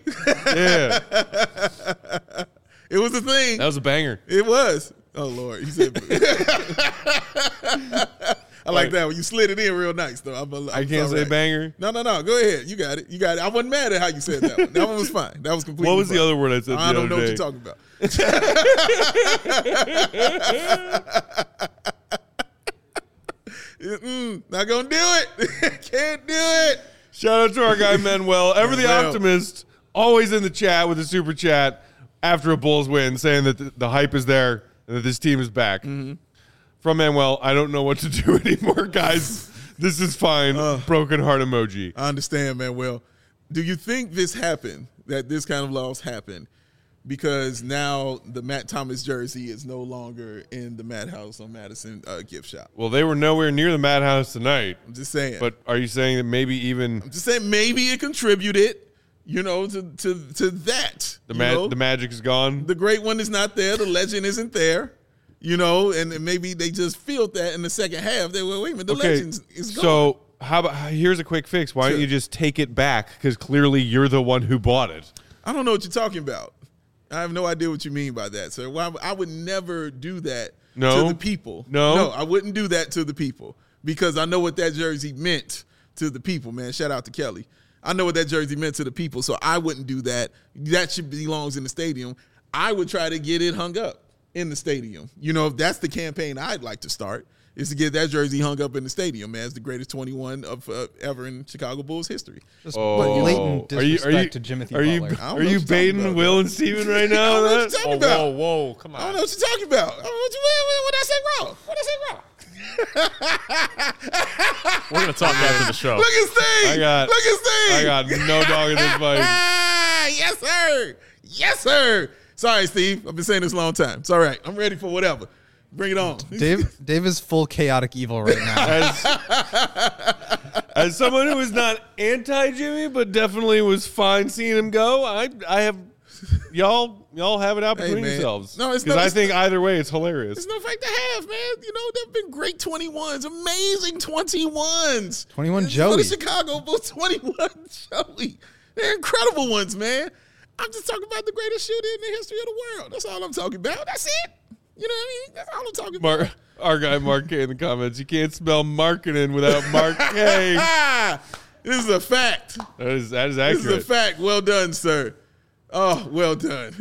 Yeah, It was a thing. that was a banger. It was. Oh Lord, he said. I like that one. You slid it in real nice, though. I'm, I'm I can't say right. banger. No, no, no. Go ahead. You got it. You got it. I wasn't mad at how you said that one. That one was fine. That was completely. What was the fine. other word I said the I don't other know day? what you're talking about. Mm-mm, not gonna do it. Can't do it. Shout out to our guy Manuel, ever the Manuel. optimist, always in the chat with a super chat after a Bulls win, saying that the, the hype is there and that this team is back. Mm-hmm. From Manuel, I don't know what to do anymore, guys. This is fine. Broken heart emoji. I understand, man. Well, do you think this happened? That this kind of loss happened because now the Matt Thomas jersey is no longer in the Madhouse on Madison uh, gift shop? Well, they were nowhere near the Madhouse tonight. I'm just saying. But are you saying that maybe even I'm just saying maybe it contributed, you know, to to to that. the you ma- know? the magic is gone? The great one is not there. The legend isn't there. You know, and maybe they just feel that in the second half. They were, wait a minute, the Okay, legend is gone. so how about here's a quick fix. Why don't Sure. you just take it back? Because clearly you're the one who bought it. I don't know what you're talking about. I have no idea what you mean by that, sir. Why I would never do that No? to the people. No? No, I wouldn't do that to the people because I know what that jersey meant to the people, man. Shout out to Kelly. I know what that jersey meant to the people, so I wouldn't do that. That should belongs in the stadium. I would try to get it hung up in the stadium. You know, if that's the campaign I'd like to start, is to get that jersey hung up in the stadium, man. It's the greatest twenty-one of uh, ever in Chicago Bulls history. Just Oh. blatant Are you- disrespect are you- to Jimothy Are you Butler. I don't are know you what you're talking baiting about, Will bro. and Steven right I now? don't know what on you're that? talking Oh, about. whoa, whoa, come I don't on. know what you're talking about. I don't know what you, what, what, what I say wrong? What I say wrong? We're gonna talk after the show. Look at Steve. I got- Look at Steve. I got no dog in this fight. Yes, sir. Yes, sir. Sorry, Steve. I've been saying this a long time. It's all right. I'm ready for whatever. Bring it on. Dave, Dave is full chaotic evil right now. As, as someone who is not anti Jimmy, but definitely was fine seeing him go, I I have y'all y'all have it out Hey, between man. yourselves. No, it's because not- I it's think either way it's hilarious. It's no fight to have, man. You know, there have been great twenty-ones, amazing twenty-ones. twenty-one For Joey. the Chicago Bulls, twenty-one Joey. They're incredible ones, man. I'm just talking about the greatest shooter in the history of the world. That's all I'm talking about. That's it. You know what I mean? That's all I'm talking about. Mark, our guy Mark K in the comments. You can't spell marketing without Mark K. This is a fact. That is that is This is a accurate. fact. Well done, sir. Oh, well done.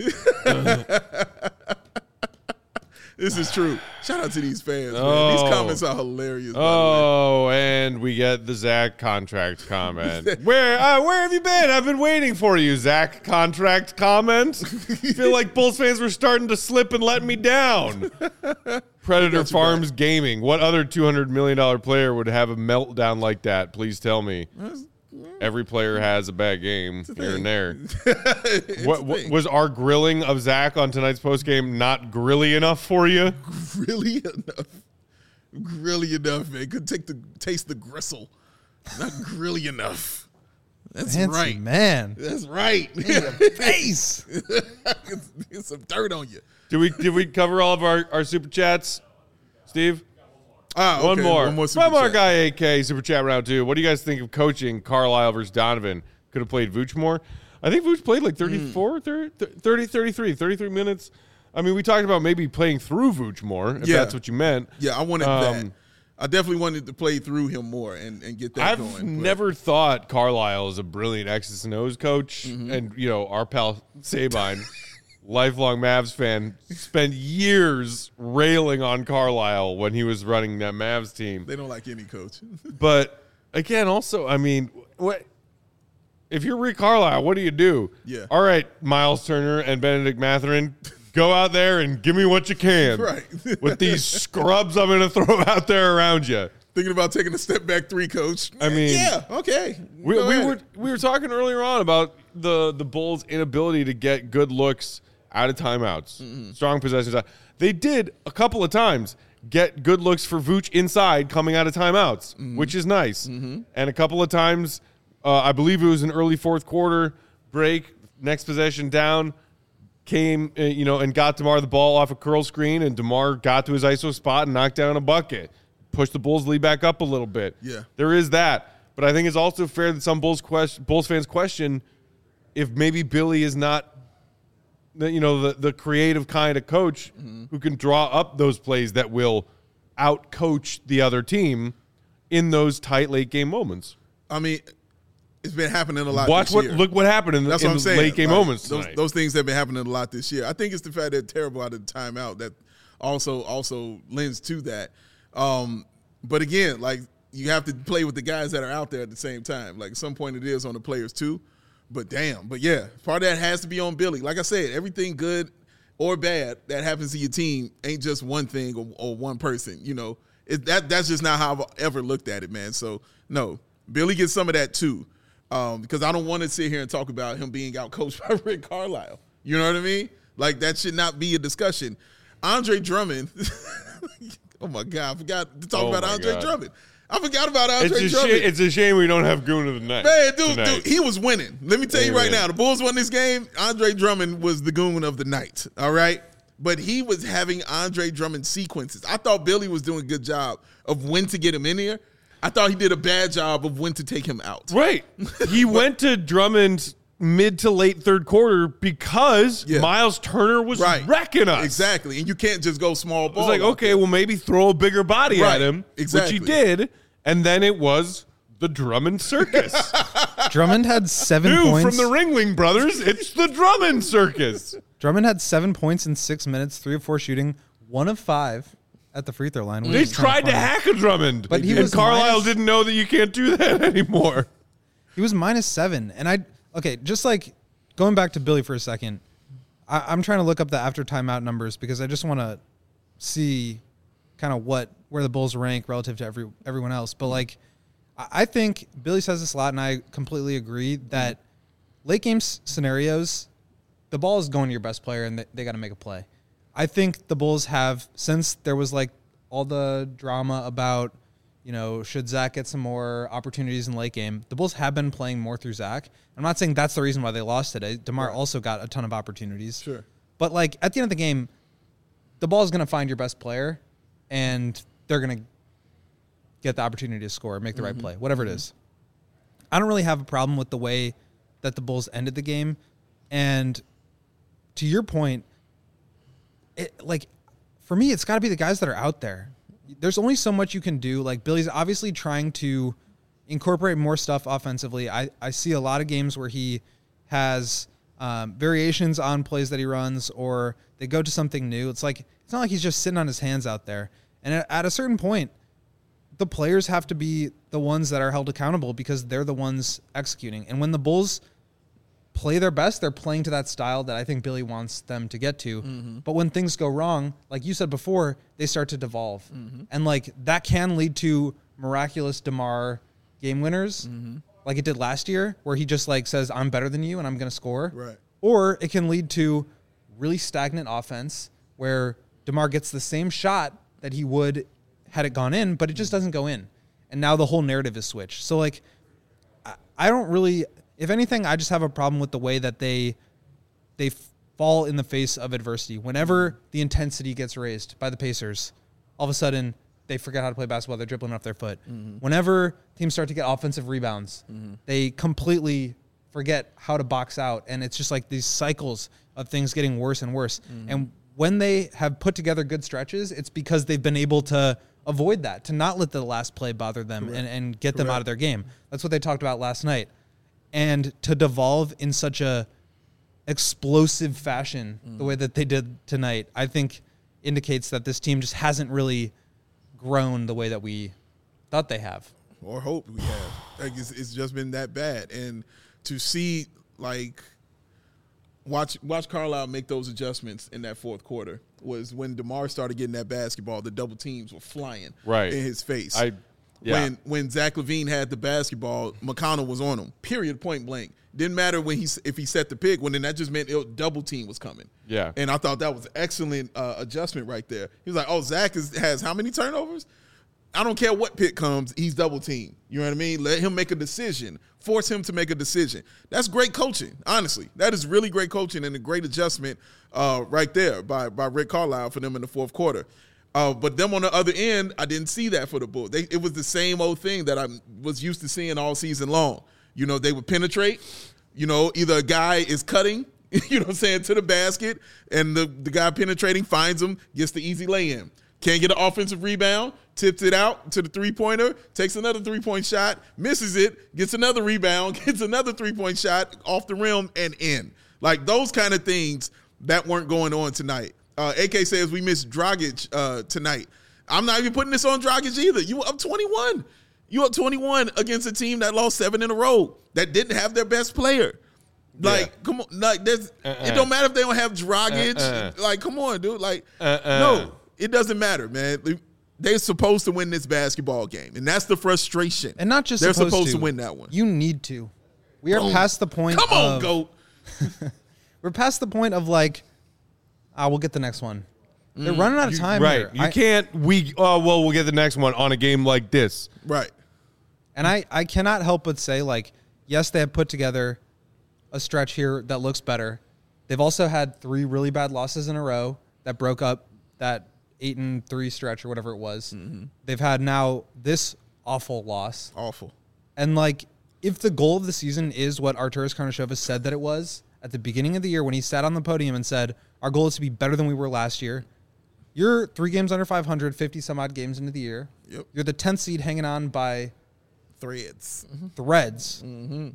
This is true. Shout out to these fans, man. Oh. These comments are hilarious. By Oh, and we get the Zach contract comment. Where uh, where have you been? I've been waiting for you, Zach contract comment. Feel like Bulls fans were starting to slip and let me down. Predator Farms Gaming. What other two hundred million dollars player would have a meltdown like that? Please tell me. Every player has a bad game here and there. the way. What, what was our grilling of Zach on tonight's postgame not grilly enough for you? Really enough. Grilly enough, man. Could take the taste the gristle. Not grilly enough. That's Fancy right. man. That's right. Face. get, get some dirt on you. Did we did we cover all of our, our super chats, Steve? Ah, One okay. more. One more super From our chat. guy A K, super chat round two. What do you guys think of coaching Carlisle versus Donovan? Could have played Vooch more. I think Vooch played like thirty-four, thirty, thirty, thirty-three, thirty-three minutes. I mean, we talked about maybe playing through Vooch more, if Yeah. that's what you meant. Yeah, I wanted Um, that. I definitely wanted to play through him more and, and get that I've going. but- never thought Carlisle is a brilliant X's and O's coach. Mm-hmm. And, you know, our pal Sabine, lifelong Mavs fan, spent years railing on Carlisle when he was running that Mavs team. They don't like any coach. But again, also, I mean, what if you're Rick Carlisle, what do you do? Yeah. All right, Miles Turner and Benedict Mathurin, go out there and give me what you can. Right. With these scrubs I'm going to throw out there around you. Thinking about taking a step back three, coach. I mean, yeah, okay. We, Go we ahead. were we were talking earlier on about the the Bulls' inability to get good looks out of timeouts, Mm-hmm. strong possessions. They did a couple of times get good looks for Vooch inside coming out of timeouts, Mm-hmm. which is nice. And a couple of times, uh, I believe it was an early fourth quarter break, next possession down, came uh, you know and got DeMar the ball off a curl screen, and DeMar got to his I S O spot and knocked down a bucket. Push the Bulls lead back up a little bit. Yeah. There is that. But I think it's also fair that some Bulls question, Bulls fans question if maybe Billy is not the, you know, the, the creative kind of coach Mm-hmm. who can draw up those plays that will out-coach the other team in those tight late game moments. I mean, it's been happening a lot Watch this what year. look what happened in, the, That's in what I'm the saying. late game Like, moments those, tonight. those things have been happening a lot this year. I think it's the fact that terrible out of the timeout that also also lends to that. Um, but again, like you have to play with the guys that are out there at the same time. Like at some point it is on the players too. But damn, but yeah, part of that has to be on Billy. Like I said, everything good or bad that happens to your team ain't just one thing or, or one person. You know, it, that that's just not how I've ever looked at it, man. So no, Billy gets some of that too. Um, because I don't want to sit here and talk about him being out coached by Rick Carlisle. You know what I mean? Like that should not be a discussion. Andre Drummond. Oh my God, I forgot to talk Oh about my Andre God. Drummond. I forgot about Andre it's, a Drummond. sh- it's a shame we don't have Goon of the Night. Man, dude, tonight. dude, he was winning. Let me tell you right Amen. now, the Bulls won this game. Andre Drummond was the goon of the night, all right? But he was having Andre Drummond sequences. I thought Billy was doing a good job of when to get him in here. I thought he did a bad job of when to take him out. Right. He went to Drummond mid to late third quarter because Yeah. Miles Turner was Right. wrecking us. Exactly. And you can't just go small It ball. was like, out okay, there. well, maybe throw a bigger body Right. at him, Exactly. which he did. And then it was the Drummond Circus. Drummond had seven New points. from the Ringling Brothers, it's the Drummond Circus. Drummond had seven points in six minutes, three of four shooting, one of five at the free throw line. which They is kinda tried to funny. hack a Drummond. But he and was Carlisle minus- didn't know that you can't do that anymore. He was minus seven. And I, okay, just like going back to Billy for a second, I, I'm trying to look up the after timeout numbers because I just want to see kind of what, where the Bulls rank relative to every everyone else. But like, I I think Billy says this a lot, and I completely agree that late game s- scenarios, the ball is going to your best player, and they, they got to make a play. I think the Bulls have, since there was like all the drama about, you know, should Zach get some more opportunities in late game, the Bulls have been playing more through Zach. I'm not saying that's the reason why they lost today. DeMar also got a ton of opportunities. Sure. But like at the end of the game, the ball is going to find your best player, and they're going to get the opportunity to score, make the right play, whatever it is. I don't really have a problem with the way that the Bulls ended the game. And to your point, it, like for me, it's got to be the guys that are out there. There's only so much you can do. Like Billy's obviously trying to incorporate more stuff offensively. I, I see a lot of games where he has um, variations on plays that he runs, or they go to something new. It's like, it's not like he's just sitting on his hands out there. And at, at a certain point, the players have to be the ones that are held accountable because they're the ones executing. And when the Bulls play their best, they're playing to that style that I think Billy wants them to get to. Mm-hmm. But when things go wrong, like you said before, they start to devolve. Mm-hmm. And like that can lead to miraculous DeMar game winners, mm-hmm. like it did last year, where he just like says, I'm better than you and I'm going to score. Right. Or it can lead to really stagnant offense where DeMar gets the same shot that he would had it gone in, but it just doesn't go in. And now the whole narrative is switched. So like, I, I don't really, if anything, I just have a problem with the way that they, they fall in the face of adversity. Whenever the intensity gets raised by the Pacers, all of a sudden they forget how to play basketball. They're dribbling off their foot. Mm-hmm. Whenever teams start to get offensive rebounds, mm-hmm. they completely forget how to box out. And it's just like these cycles of things getting worse and worse. Mm-hmm. And when they have put together good stretches, it's because they've been able to avoid that, to not let the last play bother them and, and get them Correct. out of their game. That's what they talked about last night. And to devolve in such a explosive fashion, mm. the way that they did tonight, I think indicates that this team just hasn't really grown the way that we thought they have. Or hope we have. Like it's, it's just been that bad. And to see like watch watch Carlisle make those adjustments in that fourth quarter was when DeMar started getting that basketball. The double teams were flying right in his face. I yeah. When when Zach LaVine had the basketball, McConnell was on him. Period. Point blank. Didn't matter when he if he set the pick. When then that just meant it, double team was coming. Yeah. And I thought that was excellent uh, adjustment right there. He was like, "Oh, Zach is, has how many turnovers? I don't care what pick comes. He's double team. You know what I mean? Let him make a decision. Force him to make a decision. That's great coaching. Honestly, that is really great coaching and a great adjustment uh, right there by by Rick Carlisle for them in the fourth quarter. Uh, but them on the other end, I didn't see that for the Bulls. They, it was the same old thing that I was used to seeing all season long. You know, they would penetrate. You know, either a guy is cutting, you know what I'm saying, to the basket, and the, the guy penetrating finds him, gets the easy lay-in. Can't get an offensive rebound, tips it out to the three-pointer, takes another three-point shot, misses it, gets another rebound, gets another three-point shot off the rim and in. Like those kind of things that weren't going on tonight. Uh, A K says we missed Dragic uh, tonight. I'm not even putting this on Dragic either. You up twenty-one. You up twenty-one against a team that lost seven in a row that didn't have their best player. Like, yeah. come on. Like, there's, uh-uh. It don't matter if they don't have Dragic. Uh-uh. Like, come on, dude. Like, uh-uh. no, it doesn't matter, man. They're supposed to win this basketball game, and that's the frustration. And not just they're supposed, supposed to. to win that one. You need to. We are Boom. past the point. Come on, of, GOAT. We're past the point of like, ah, we'll get the next one. They're mm, running out of you, time. Right. Here. You I, can't, we, oh, well, we'll get the next one on a game like this. Right. And I, I cannot help but say, like, yes, they have put together a stretch here that looks better. They've also had three really bad losses in a row that broke up that eight and three stretch or whatever it was. Mm-hmm. They've had now this awful loss. Awful. And, like, if the goal of the season is what Arturas Karnisovas said that it was at the beginning of the year when he sat on the podium and said, our goal is to be better than we were last year, you're three games under five hundred, fifty some odd games into the year. Yep. You're the tenth seed hanging on by threads. Mm-hmm. Threads. Mm-hmm.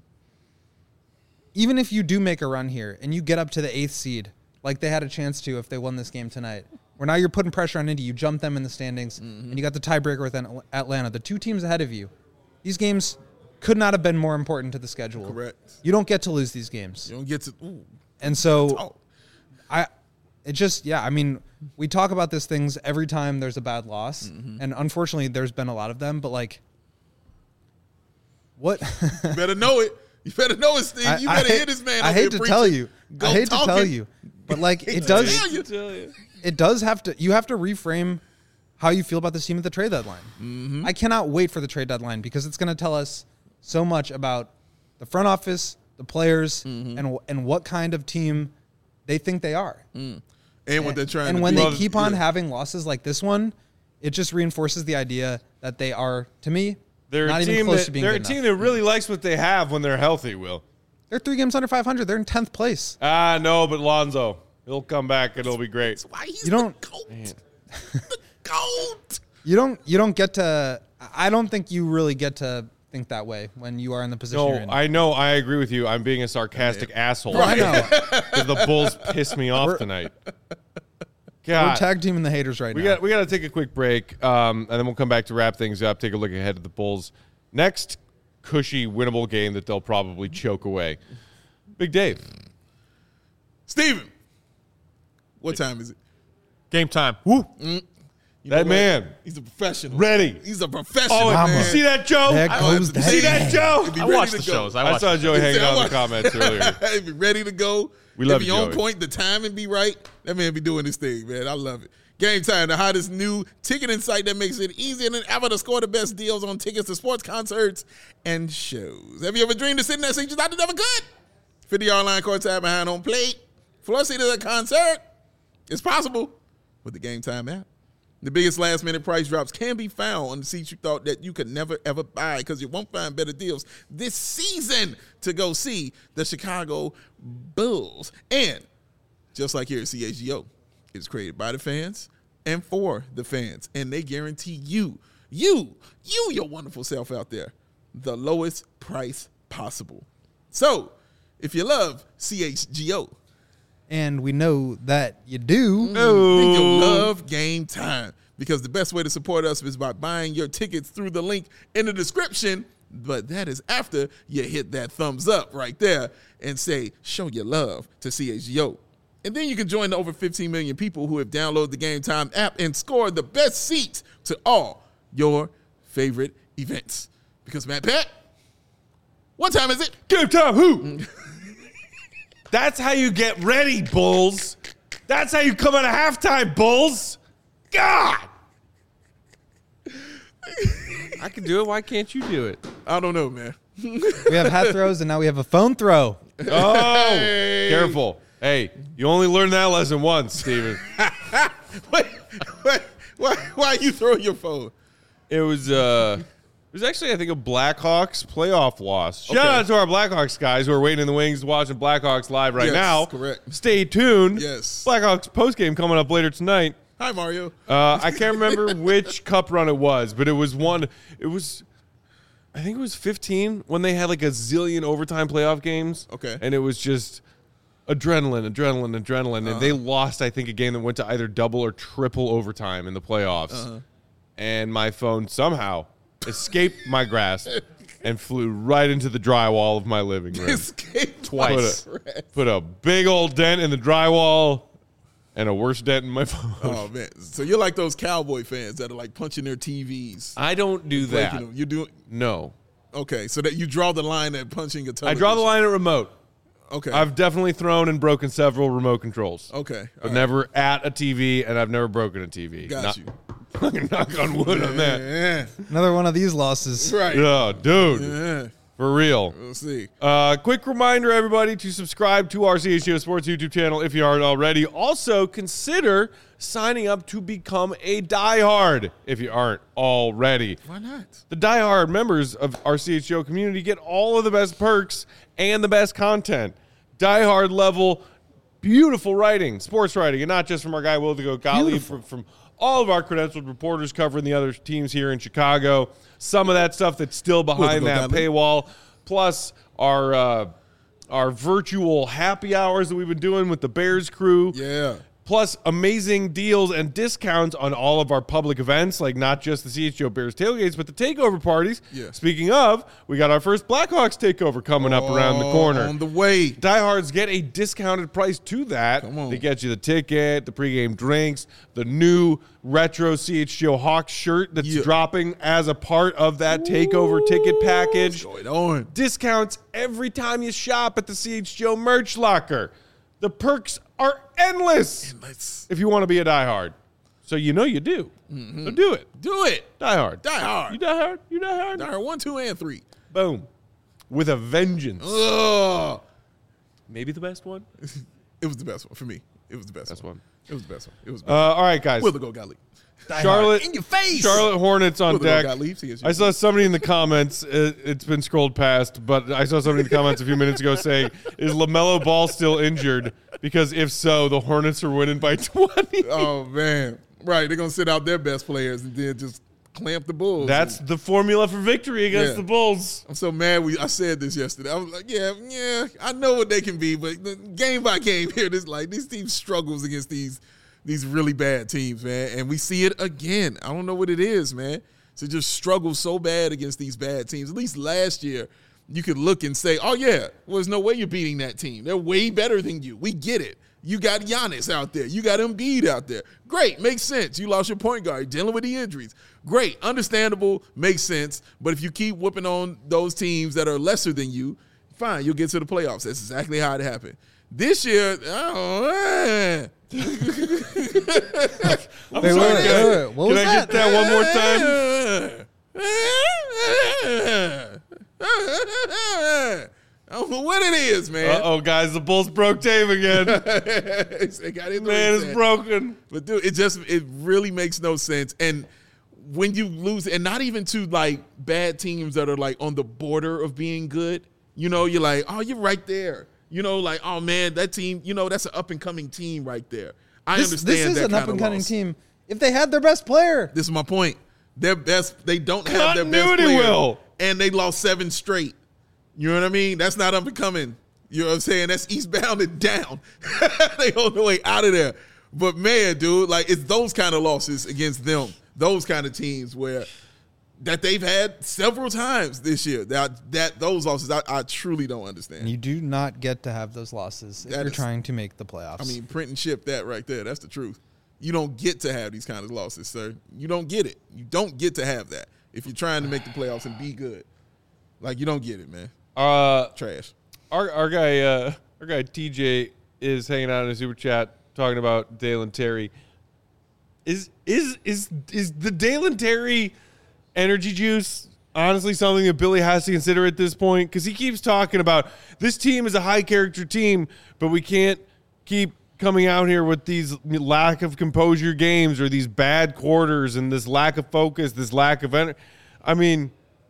Even if you do make a run here and you get up to the eighth seed, like they had a chance to if they won this game tonight, where now you're putting pressure on Indy, you jump them in the standings, mm-hmm. and you got the tiebreaker with Atlanta, the two teams ahead of you. These games could not have been more important to the schedule. Correct. You don't get to lose these games. You don't get to. Ooh. And so, oh. I, it just, yeah, I mean, we talk about these things every time there's a bad loss, mm-hmm. and unfortunately, there's been a lot of them. But like, what? You better know it. You better know it, Steve. You I, better I, hit this man. I hate to preaching. tell you. Go I hate talking. to tell you, but like, it does. Tell you. Tell you. It does have to. You have to reframe how you feel about this team at the trade deadline. Mm-hmm. I cannot wait for the trade deadline because it's going to tell us so much about the front office, the players, mm-hmm. and and what kind of team they think they are. Mm. And what they're trying and to when do. they keep on yeah. having losses like this one, it just reinforces the idea that they are, to me, they're not a even team close that, to being They're good a team enough. that really likes what they have when they're healthy, Will. They're three games under five hundred. They're in tenth place. Ah, no, but Lonzo, he'll come back and it'll be great. That's why he's you don't, the GOAT. The GOAT. You don't, you don't get to, I don't think you really get to think that way when you are in the position No, you're in. I know. I agree with you. I'm being a sarcastic yeah. asshole. I know. Because the Bulls piss me off We're, tonight. God. We're tag teaming the haters right we now. Got, we got to take a quick break, um, and then we'll come back to wrap things up, take a look ahead at the Bulls' next cushy, winnable game that they'll probably choke away. Big Dave. Steven. What time is it? Game time. Woo. Mm. You that man. He's a professional. Ready. He's a professional, oh, man. You see that, Joe? There I goes to that see that, Joe? I watch the shows. I, I saw Joey hanging out in the comments earlier. He'd be ready to go. We love He'd you, be on Joey. point. The timing be right. That man be doing his thing, man. I love it. Game Time, the hottest new ticketing site that makes it easier than ever to score the best deals on tickets to sports, concerts, and shows. Have you ever dreamed of sitting there seat you thought you never could? fifty-yard line courtside behind home plate. Floor seat at a concert. It's possible with the Game Time app. The biggest last-minute price drops can be found on the seats you thought that you could never, ever buy because you won't find better deals this season to go see the Chicago Bulls. And just like here at C H G O, it's created by the fans and for the fans. And they guarantee you, you, you, your wonderful self out there, the lowest price possible. So if you love C H G O, and we know that you do, no. then you'll love Game Time because the best way to support us is by buying your tickets through the link in the description But that is after you hit that thumbs up right there and say, show your love to C H G O. And then you can join the over fifteen million people who have downloaded the Game Time app and scored the best seats to all your favorite events. Because, Matt Pat, what time is it? Game time, who? That's how you get ready, Bulls. That's how you come out of halftime, Bulls. God. I can do it. Why can't you do it? I don't know, man. We have hat throws, and now we have a phone throw. Oh, Hey. careful. Hey, you only learned that lesson once, Steven. wait, wait, why, why are you throwing your phone? It was uh it was actually, I think, a Blackhawks playoff loss. Shout Okay. out to our Blackhawks guys who are waiting in the wings watching Blackhawks live right Yes, now. correct. Stay tuned. Yes. Blackhawks postgame coming up later tonight. Hi, Mario. Uh, I can't remember which cup run it was, but it was one. It was, I think it was fifteen when they had like a zillion overtime playoff games. Okay. And it was just adrenaline, adrenaline, adrenaline. And they lost, I think, a game that went to either double or triple overtime in the playoffs. Uh-huh. And my phone somehow escaped my grasp and flew right into the drywall of my living room. Escape Twice. my breath. Put a big old dent in the drywall and a worse dent in my phone. Oh, man. So you're like those Cowboy fans that are like punching their T Vs. I don't do that. breaking them. You do No. Okay, so that you draw the line at punching a I television. draw the line at remote. Okay. I've definitely thrown and broken several remote controls. okay. But all right. never at a T V, and I've never broken a T V. Got Knock- you. Knock on wood on that. Yeah. Another one of these losses. Right. Oh, dude. Yeah. For real. We'll see. Uh, quick reminder, everybody, to subscribe to our C H G O Sports YouTube channel if you aren't already. Also, consider signing up to become a diehard if you aren't already. Why not? The diehard members of our C H G O community get all of the best perks and the best content. Diehard level, beautiful writing, sports writing, and not just from our guy Will to Go Gottlieb, from, from all of our credentialed reporters covering the other teams here in Chicago. Some of that stuff that's still behind Go that Gottlieb. paywall, plus our uh, our virtual happy hours that we've been doing with the Bears crew. Yeah. Plus amazing deals and discounts on all of our public events, like not just the C H G O Bears tailgates, but the takeover parties. Yeah. Speaking of, we got our first Blackhawks takeover coming up around the corner. On the way. Diehards get a discounted price to that. Come on. They get you the ticket, the pregame drinks, the new retro C H G O Hawks shirt that's Yeah. dropping as a part of that takeover ticket package. What's going on? Discounts every time you shop at the C H G O merch locker. The perks are endless Let's if you want to be a diehard. So you know you do. So do it. do it. Diehard. Die hard. You diehard? You diehard? Die hard. One, two, and three. Boom. With a vengeance. Ugh. Maybe the best one. It was the best one for me. It was the best, Best one. one. It was the best one. It was the Uh, best all right, guys. one. Will the go Gottlieb. Charlotte In your face. Charlotte Hornets on Will the go deck. Gottlieb. C H G O. I saw somebody in the comments. It, it's been scrolled past, but I saw somebody in the comments a few minutes ago saying, "Is LaMelo Ball still injured? Because if so, the Hornets are winning by twenty." Oh, man. Right. They're going to sit out their best players and then just clamp the Bulls. That's the formula for victory against Yeah. the Bulls. I'm so mad. We I said this yesterday. I was like, yeah, yeah, I know what they can be, but the- game by game here, this like these teams struggles against these these really bad teams, man. And we see it again. I don't know what it is, man. To just struggle so bad against these bad teams. At least last year, you could look and say, oh yeah, well, there's no way you're beating that team. They're way better than you. We get it. You got Giannis out there. You got Embiid out there. Great, makes sense. You lost your point guard, dealing with the injuries. Great, understandable, makes sense. But if you keep whooping on those teams that are lesser than you, fine, you'll get to the playoffs. That's exactly how it happened. This year, oh, man. I'm Wait, sorry, wait, can I- wait, wait. What can was I that? get that one more time? I don't know what it is, man. Uh-oh, guys, the Bulls broke Dave again. They got it Man is reset. broken. But dude, it just it really makes no sense. And when you lose, and not even to like bad teams that are like on the border of being good, you know, you're like, oh, you're right there. You know, like, oh man, that team, you know, that's an up and coming team right there. I This, understand this is that an kind up and of coming loss. team. If they had their best player, This is my point. Their best, they don't have their best Continuity, player, Will. and they lost seven straight. You know what I mean? That's not up and coming. You know what I'm saying? That's eastbound and down. They on the way out of there. But man, dude, like it's those kind of losses against them, those kind of teams where that they've had several times this year. That that those losses, I, I truly don't understand. You do not get to have those losses if That you're is- trying to make the playoffs. I mean, print and ship that right there. That's the truth. You don't get to have these kind of losses, sir. You don't get it. You don't get to have that if you're trying to make the playoffs and be good. Like, you don't get it, man. Uh, Trash. our our guy uh, our guy T J is hanging out in a super chat talking about Dalen Terry. Is is is is the Dalen Terry energy juice honestly something that Billy has to consider at this point? Because he keeps talking about this team is a high character team, but we can't keep coming out here with these lack of composure games or these bad quarters and this lack of focus, this lack of energy. I mean,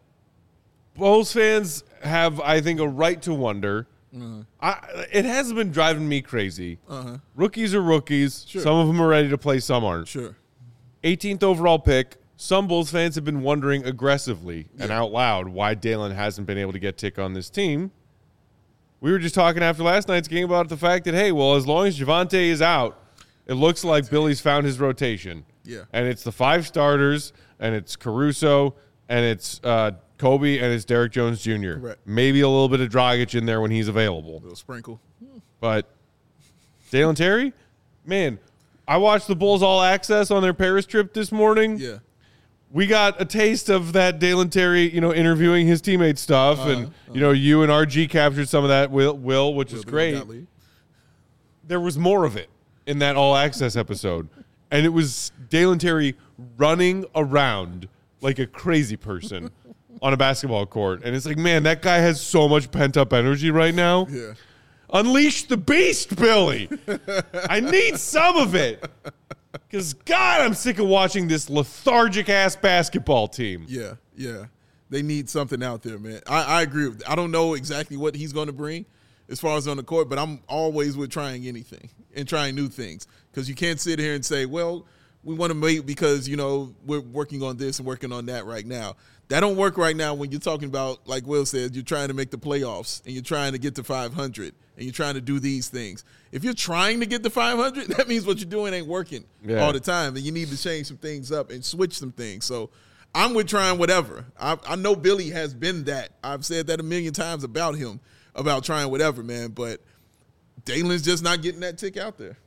Bulls fans have, I think, a right to wonder. Uh-huh. I, it hasn't been driving me crazy. Uh-huh. Rookies are rookies. Sure. Some of them are ready to play, some aren't. Sure. eighteenth overall pick. Some Bulls fans have been wondering aggressively and Yeah. out loud why Dalen hasn't been able to get tick on this team. We were just talking after last night's game about the fact that, hey, well, as long as Javonte is out, it looks like Billy's found his rotation. Yeah. And it's the five starters, and it's Caruso, and it's uh, Kobe, and it's Derek Jones Junior Correct. Maybe a little bit of Dragic in there when he's available. Little sprinkle. But Dalen Terry, man, I watched the Bulls All Access on their Paris trip this morning. Yeah. We got a taste of that Dalen Terry, you know, interviewing his teammate stuff, Uh-huh, and you know, you and R G captured some of that, Will, Will which is Little great. Gottlieb. There was more of it in that All Access episode, and it was Dalen Terry running around like a crazy person on a basketball court, and it's like, man, that guy has so much pent up energy right now. Yeah. Unleash the beast, Billy. I need some of it. Because, God, I'm sick of watching this lethargic-ass basketball team. Yeah, yeah. They need something out there, man. I, I agree with I don't know exactly what he's going to bring as far as on the court, but I'm always with trying anything and trying new things. Because you can't sit here and say, well, we want to make because, you know, we're working on this and working on that right now. That don't work right now when you're talking about, like Will said, you're trying to make the playoffs and you're trying to get to five hundred and you're trying to do these things. If you're trying to get to five hundred, that means what you're doing ain't working Yeah. all the time, and you need to change some things up and switch some things. So I'm with trying whatever. I, I know Billy has been that. I've said that a million times about him, about trying whatever, man, but Dalen's just not getting that tick out there.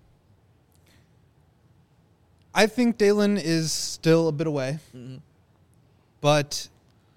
I think Dalen is still a bit away, Mm-hmm. but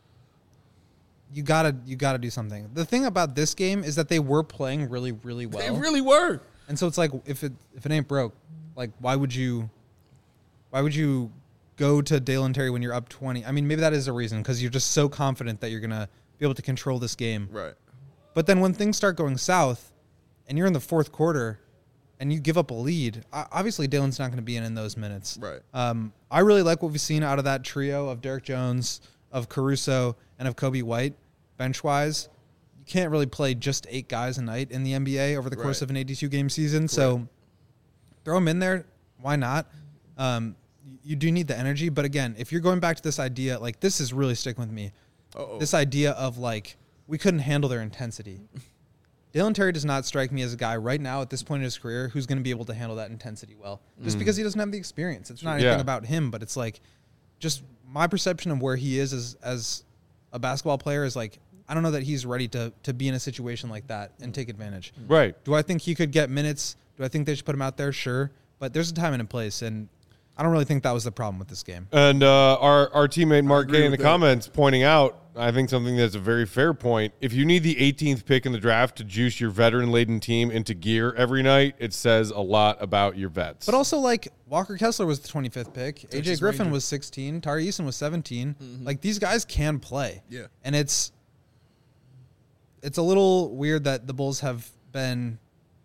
you gotta you gotta do something. The thing about this game is that they were playing really really well, They really were. and so it's like if it if it ain't broke, like why would you why would you go to Dalen Terry when you're up twenty? I mean, maybe that is a reason because you're just so confident that you're gonna be able to control this game. Right. But then when things start going south, and you're in the fourth quarter, and you give up a lead, o- obviously Dalen's not going to be in in those minutes. Right. Um, I really like what we've seen out of that trio of Derek Jones, of Caruso, and of Kobe White, bench-wise. You can't really play just eight guys a night in the N B A over the course Right. of an eighty-two game season. So throw them in there. Why not? Um, y- you do need the energy. But again, if you're going back to this idea, like this is really sticking with me. Uh-oh. This idea of like, we couldn't handle their intensity. Dalen Terry does not strike me as a guy right now at this point in his career who's going to be able to handle that intensity well, just because he doesn't have the experience. It's not anything Yeah. about him, but it's like just my perception of where he is as, as a basketball player is like, I don't know that he's ready to, to be in a situation like that and take advantage. Right. Do I think he could get minutes? Do I think they should put him out there? Sure. But there's a time and a place, and I don't really think that was the problem with this game. And uh, our, our teammate Mark agree Gay in the with that. comments pointing out, I think something that's a very fair point. If you need the eighteenth pick in the draft to juice your veteran-laden team into gear every night, it says a lot about your vets. But also, like, Walker Kessler was the twenty-fifth pick. A J Texas Griffin Ranger. was sixteen. Tari Eason was seventeen. Like, these guys can play. Yeah. And it's it's a little weird that the Bulls have been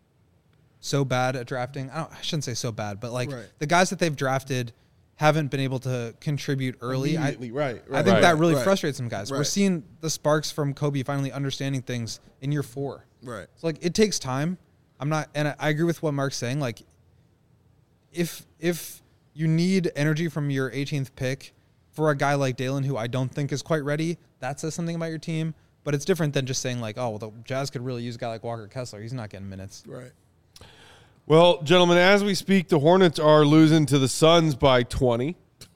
so bad at drafting. I, don't, I shouldn't say so bad, but, like, Right. the guys that they've drafted haven't been able to contribute early. I, Immediately, right, I right, think Right. that really right, frustrates some guys. We're right. seeing the sparks from Kobe finally understanding things in year four. Right. So like it takes time. I'm not, and I, I agree with what Mark's saying. Like, if if you need energy from your eighteenth pick for a guy like Dalen, who I don't think is quite ready, that says something about your team. But it's different than just saying like, oh, well, the Jazz could really use a guy like Walker Kessler. He's not getting minutes. Right. well, gentlemen, as we speak, the Hornets are losing to the Suns by twenty.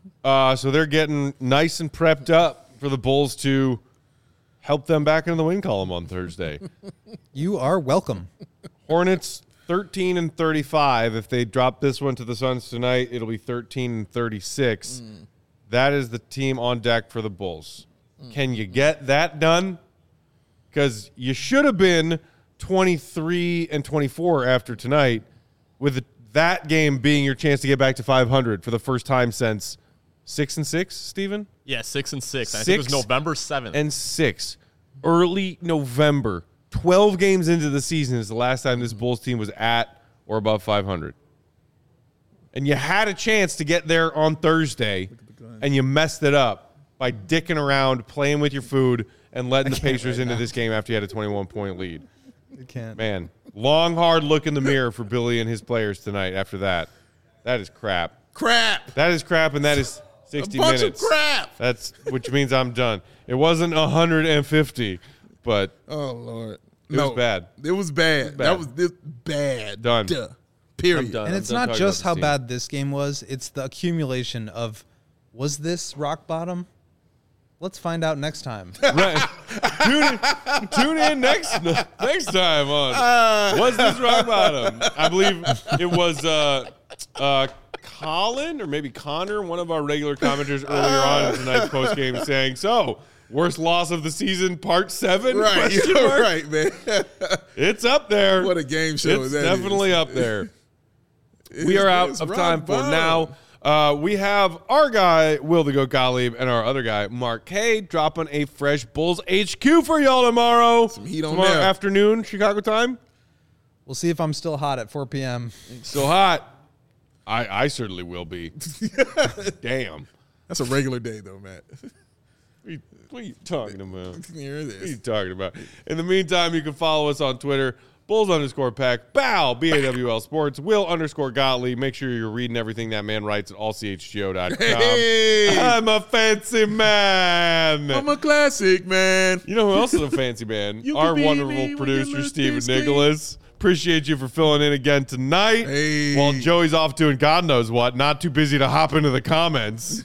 Uh, so they're getting nice and prepped up for the Bulls to help them back into the win column on Thursday. You are welcome. Hornets thirteen and thirty-five. If they drop this one to the Suns tonight, it'll be thirteen and thirty-six. Mm. That is the team on deck for the Bulls. Mm. Can you get that done? Because you should have been twenty-three and twenty-four after tonight, with that game being your chance to get back to five hundred for the first time since six and six, Steven? Yeah, six and six. six I think it was November seventh. And six. Early November. twelve games into the season is the last time this Bulls team was at or above five hundred. And you had a chance to get there on Thursday, and you messed it up by dicking around, playing with your food, and letting the Pacers right into now. This game after you had a twenty-one point lead. You can't. Man, long, hard look in the mirror for Billy and his players tonight after that. That is crap. Crap. That is crap, and that is sixty a bunch minutes. Of crap. That's which means I'm done. It wasn't one hundred fifty, but oh Lord, it no, was bad. It was bad. It was bad. That was this bad. Done. Duh. Period. I'm done. And I'm it's done not talking just about how this team. bad this game was. It's the accumulation of, was this rock bottom? Let's find out next time. Right. tune, in, tune in next next time on Uh, Was This Rock Bottom? I believe it was uh, uh, Colin or maybe Connor, one of our regular commenters earlier on in tonight's postgame, saying, so, worst loss of the season, part seven? Right, Question you're mark? right, man. It's up there. What a game show It's that definitely is. up there. It's- We are out it's of rock time for bottom. now. Uh, we have our guy, Will the Goat Gottlieb, and our other guy, Mark K, dropping a fresh Bulls H Q for y'all tomorrow. Some heat on tomorrow there. afternoon, Chicago time. We'll see if I'm still hot at four p.m. Still hot. I, I certainly will be. Damn. That's a regular day, though, Matt. What are, you, what are you talking about? Here it What are you is. talking about? In the meantime, you can follow us on Twitter, Bulls underscore Pack, Bow, B A W L Sports, Will underscore Gottlieb. Make sure you're reading everything that man writes at all c h g o dot com. Hey, I'm a fancy man. I'm a classic, man. You know who else is a fancy man? You Our can be wonderful me when you producer, look Stephen this way. Nicholas. Appreciate you for filling in again tonight. Hey. While Joey's off doing God knows what, not too busy to hop into the comments.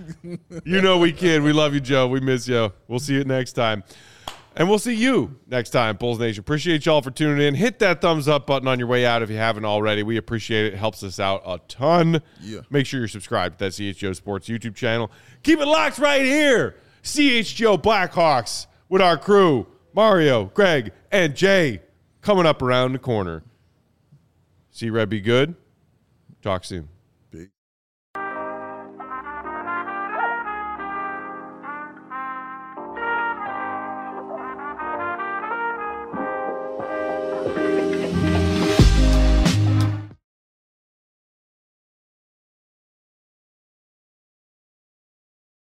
You know we kid. We love you, Joe. We miss you. We'll see you next time. And we'll see you next time, Bulls Nation. Appreciate y'all for tuning in. Hit that thumbs up button on your way out if you haven't already. We appreciate it. It helps us out a ton. Yeah. Make Make sure you're subscribed to that C H G O Sports YouTube channel. Keep it locked right here. C H G O Blackhawks with our crew, Mario, Greg, and Jay, coming up around the corner. See Red be good. Talk soon.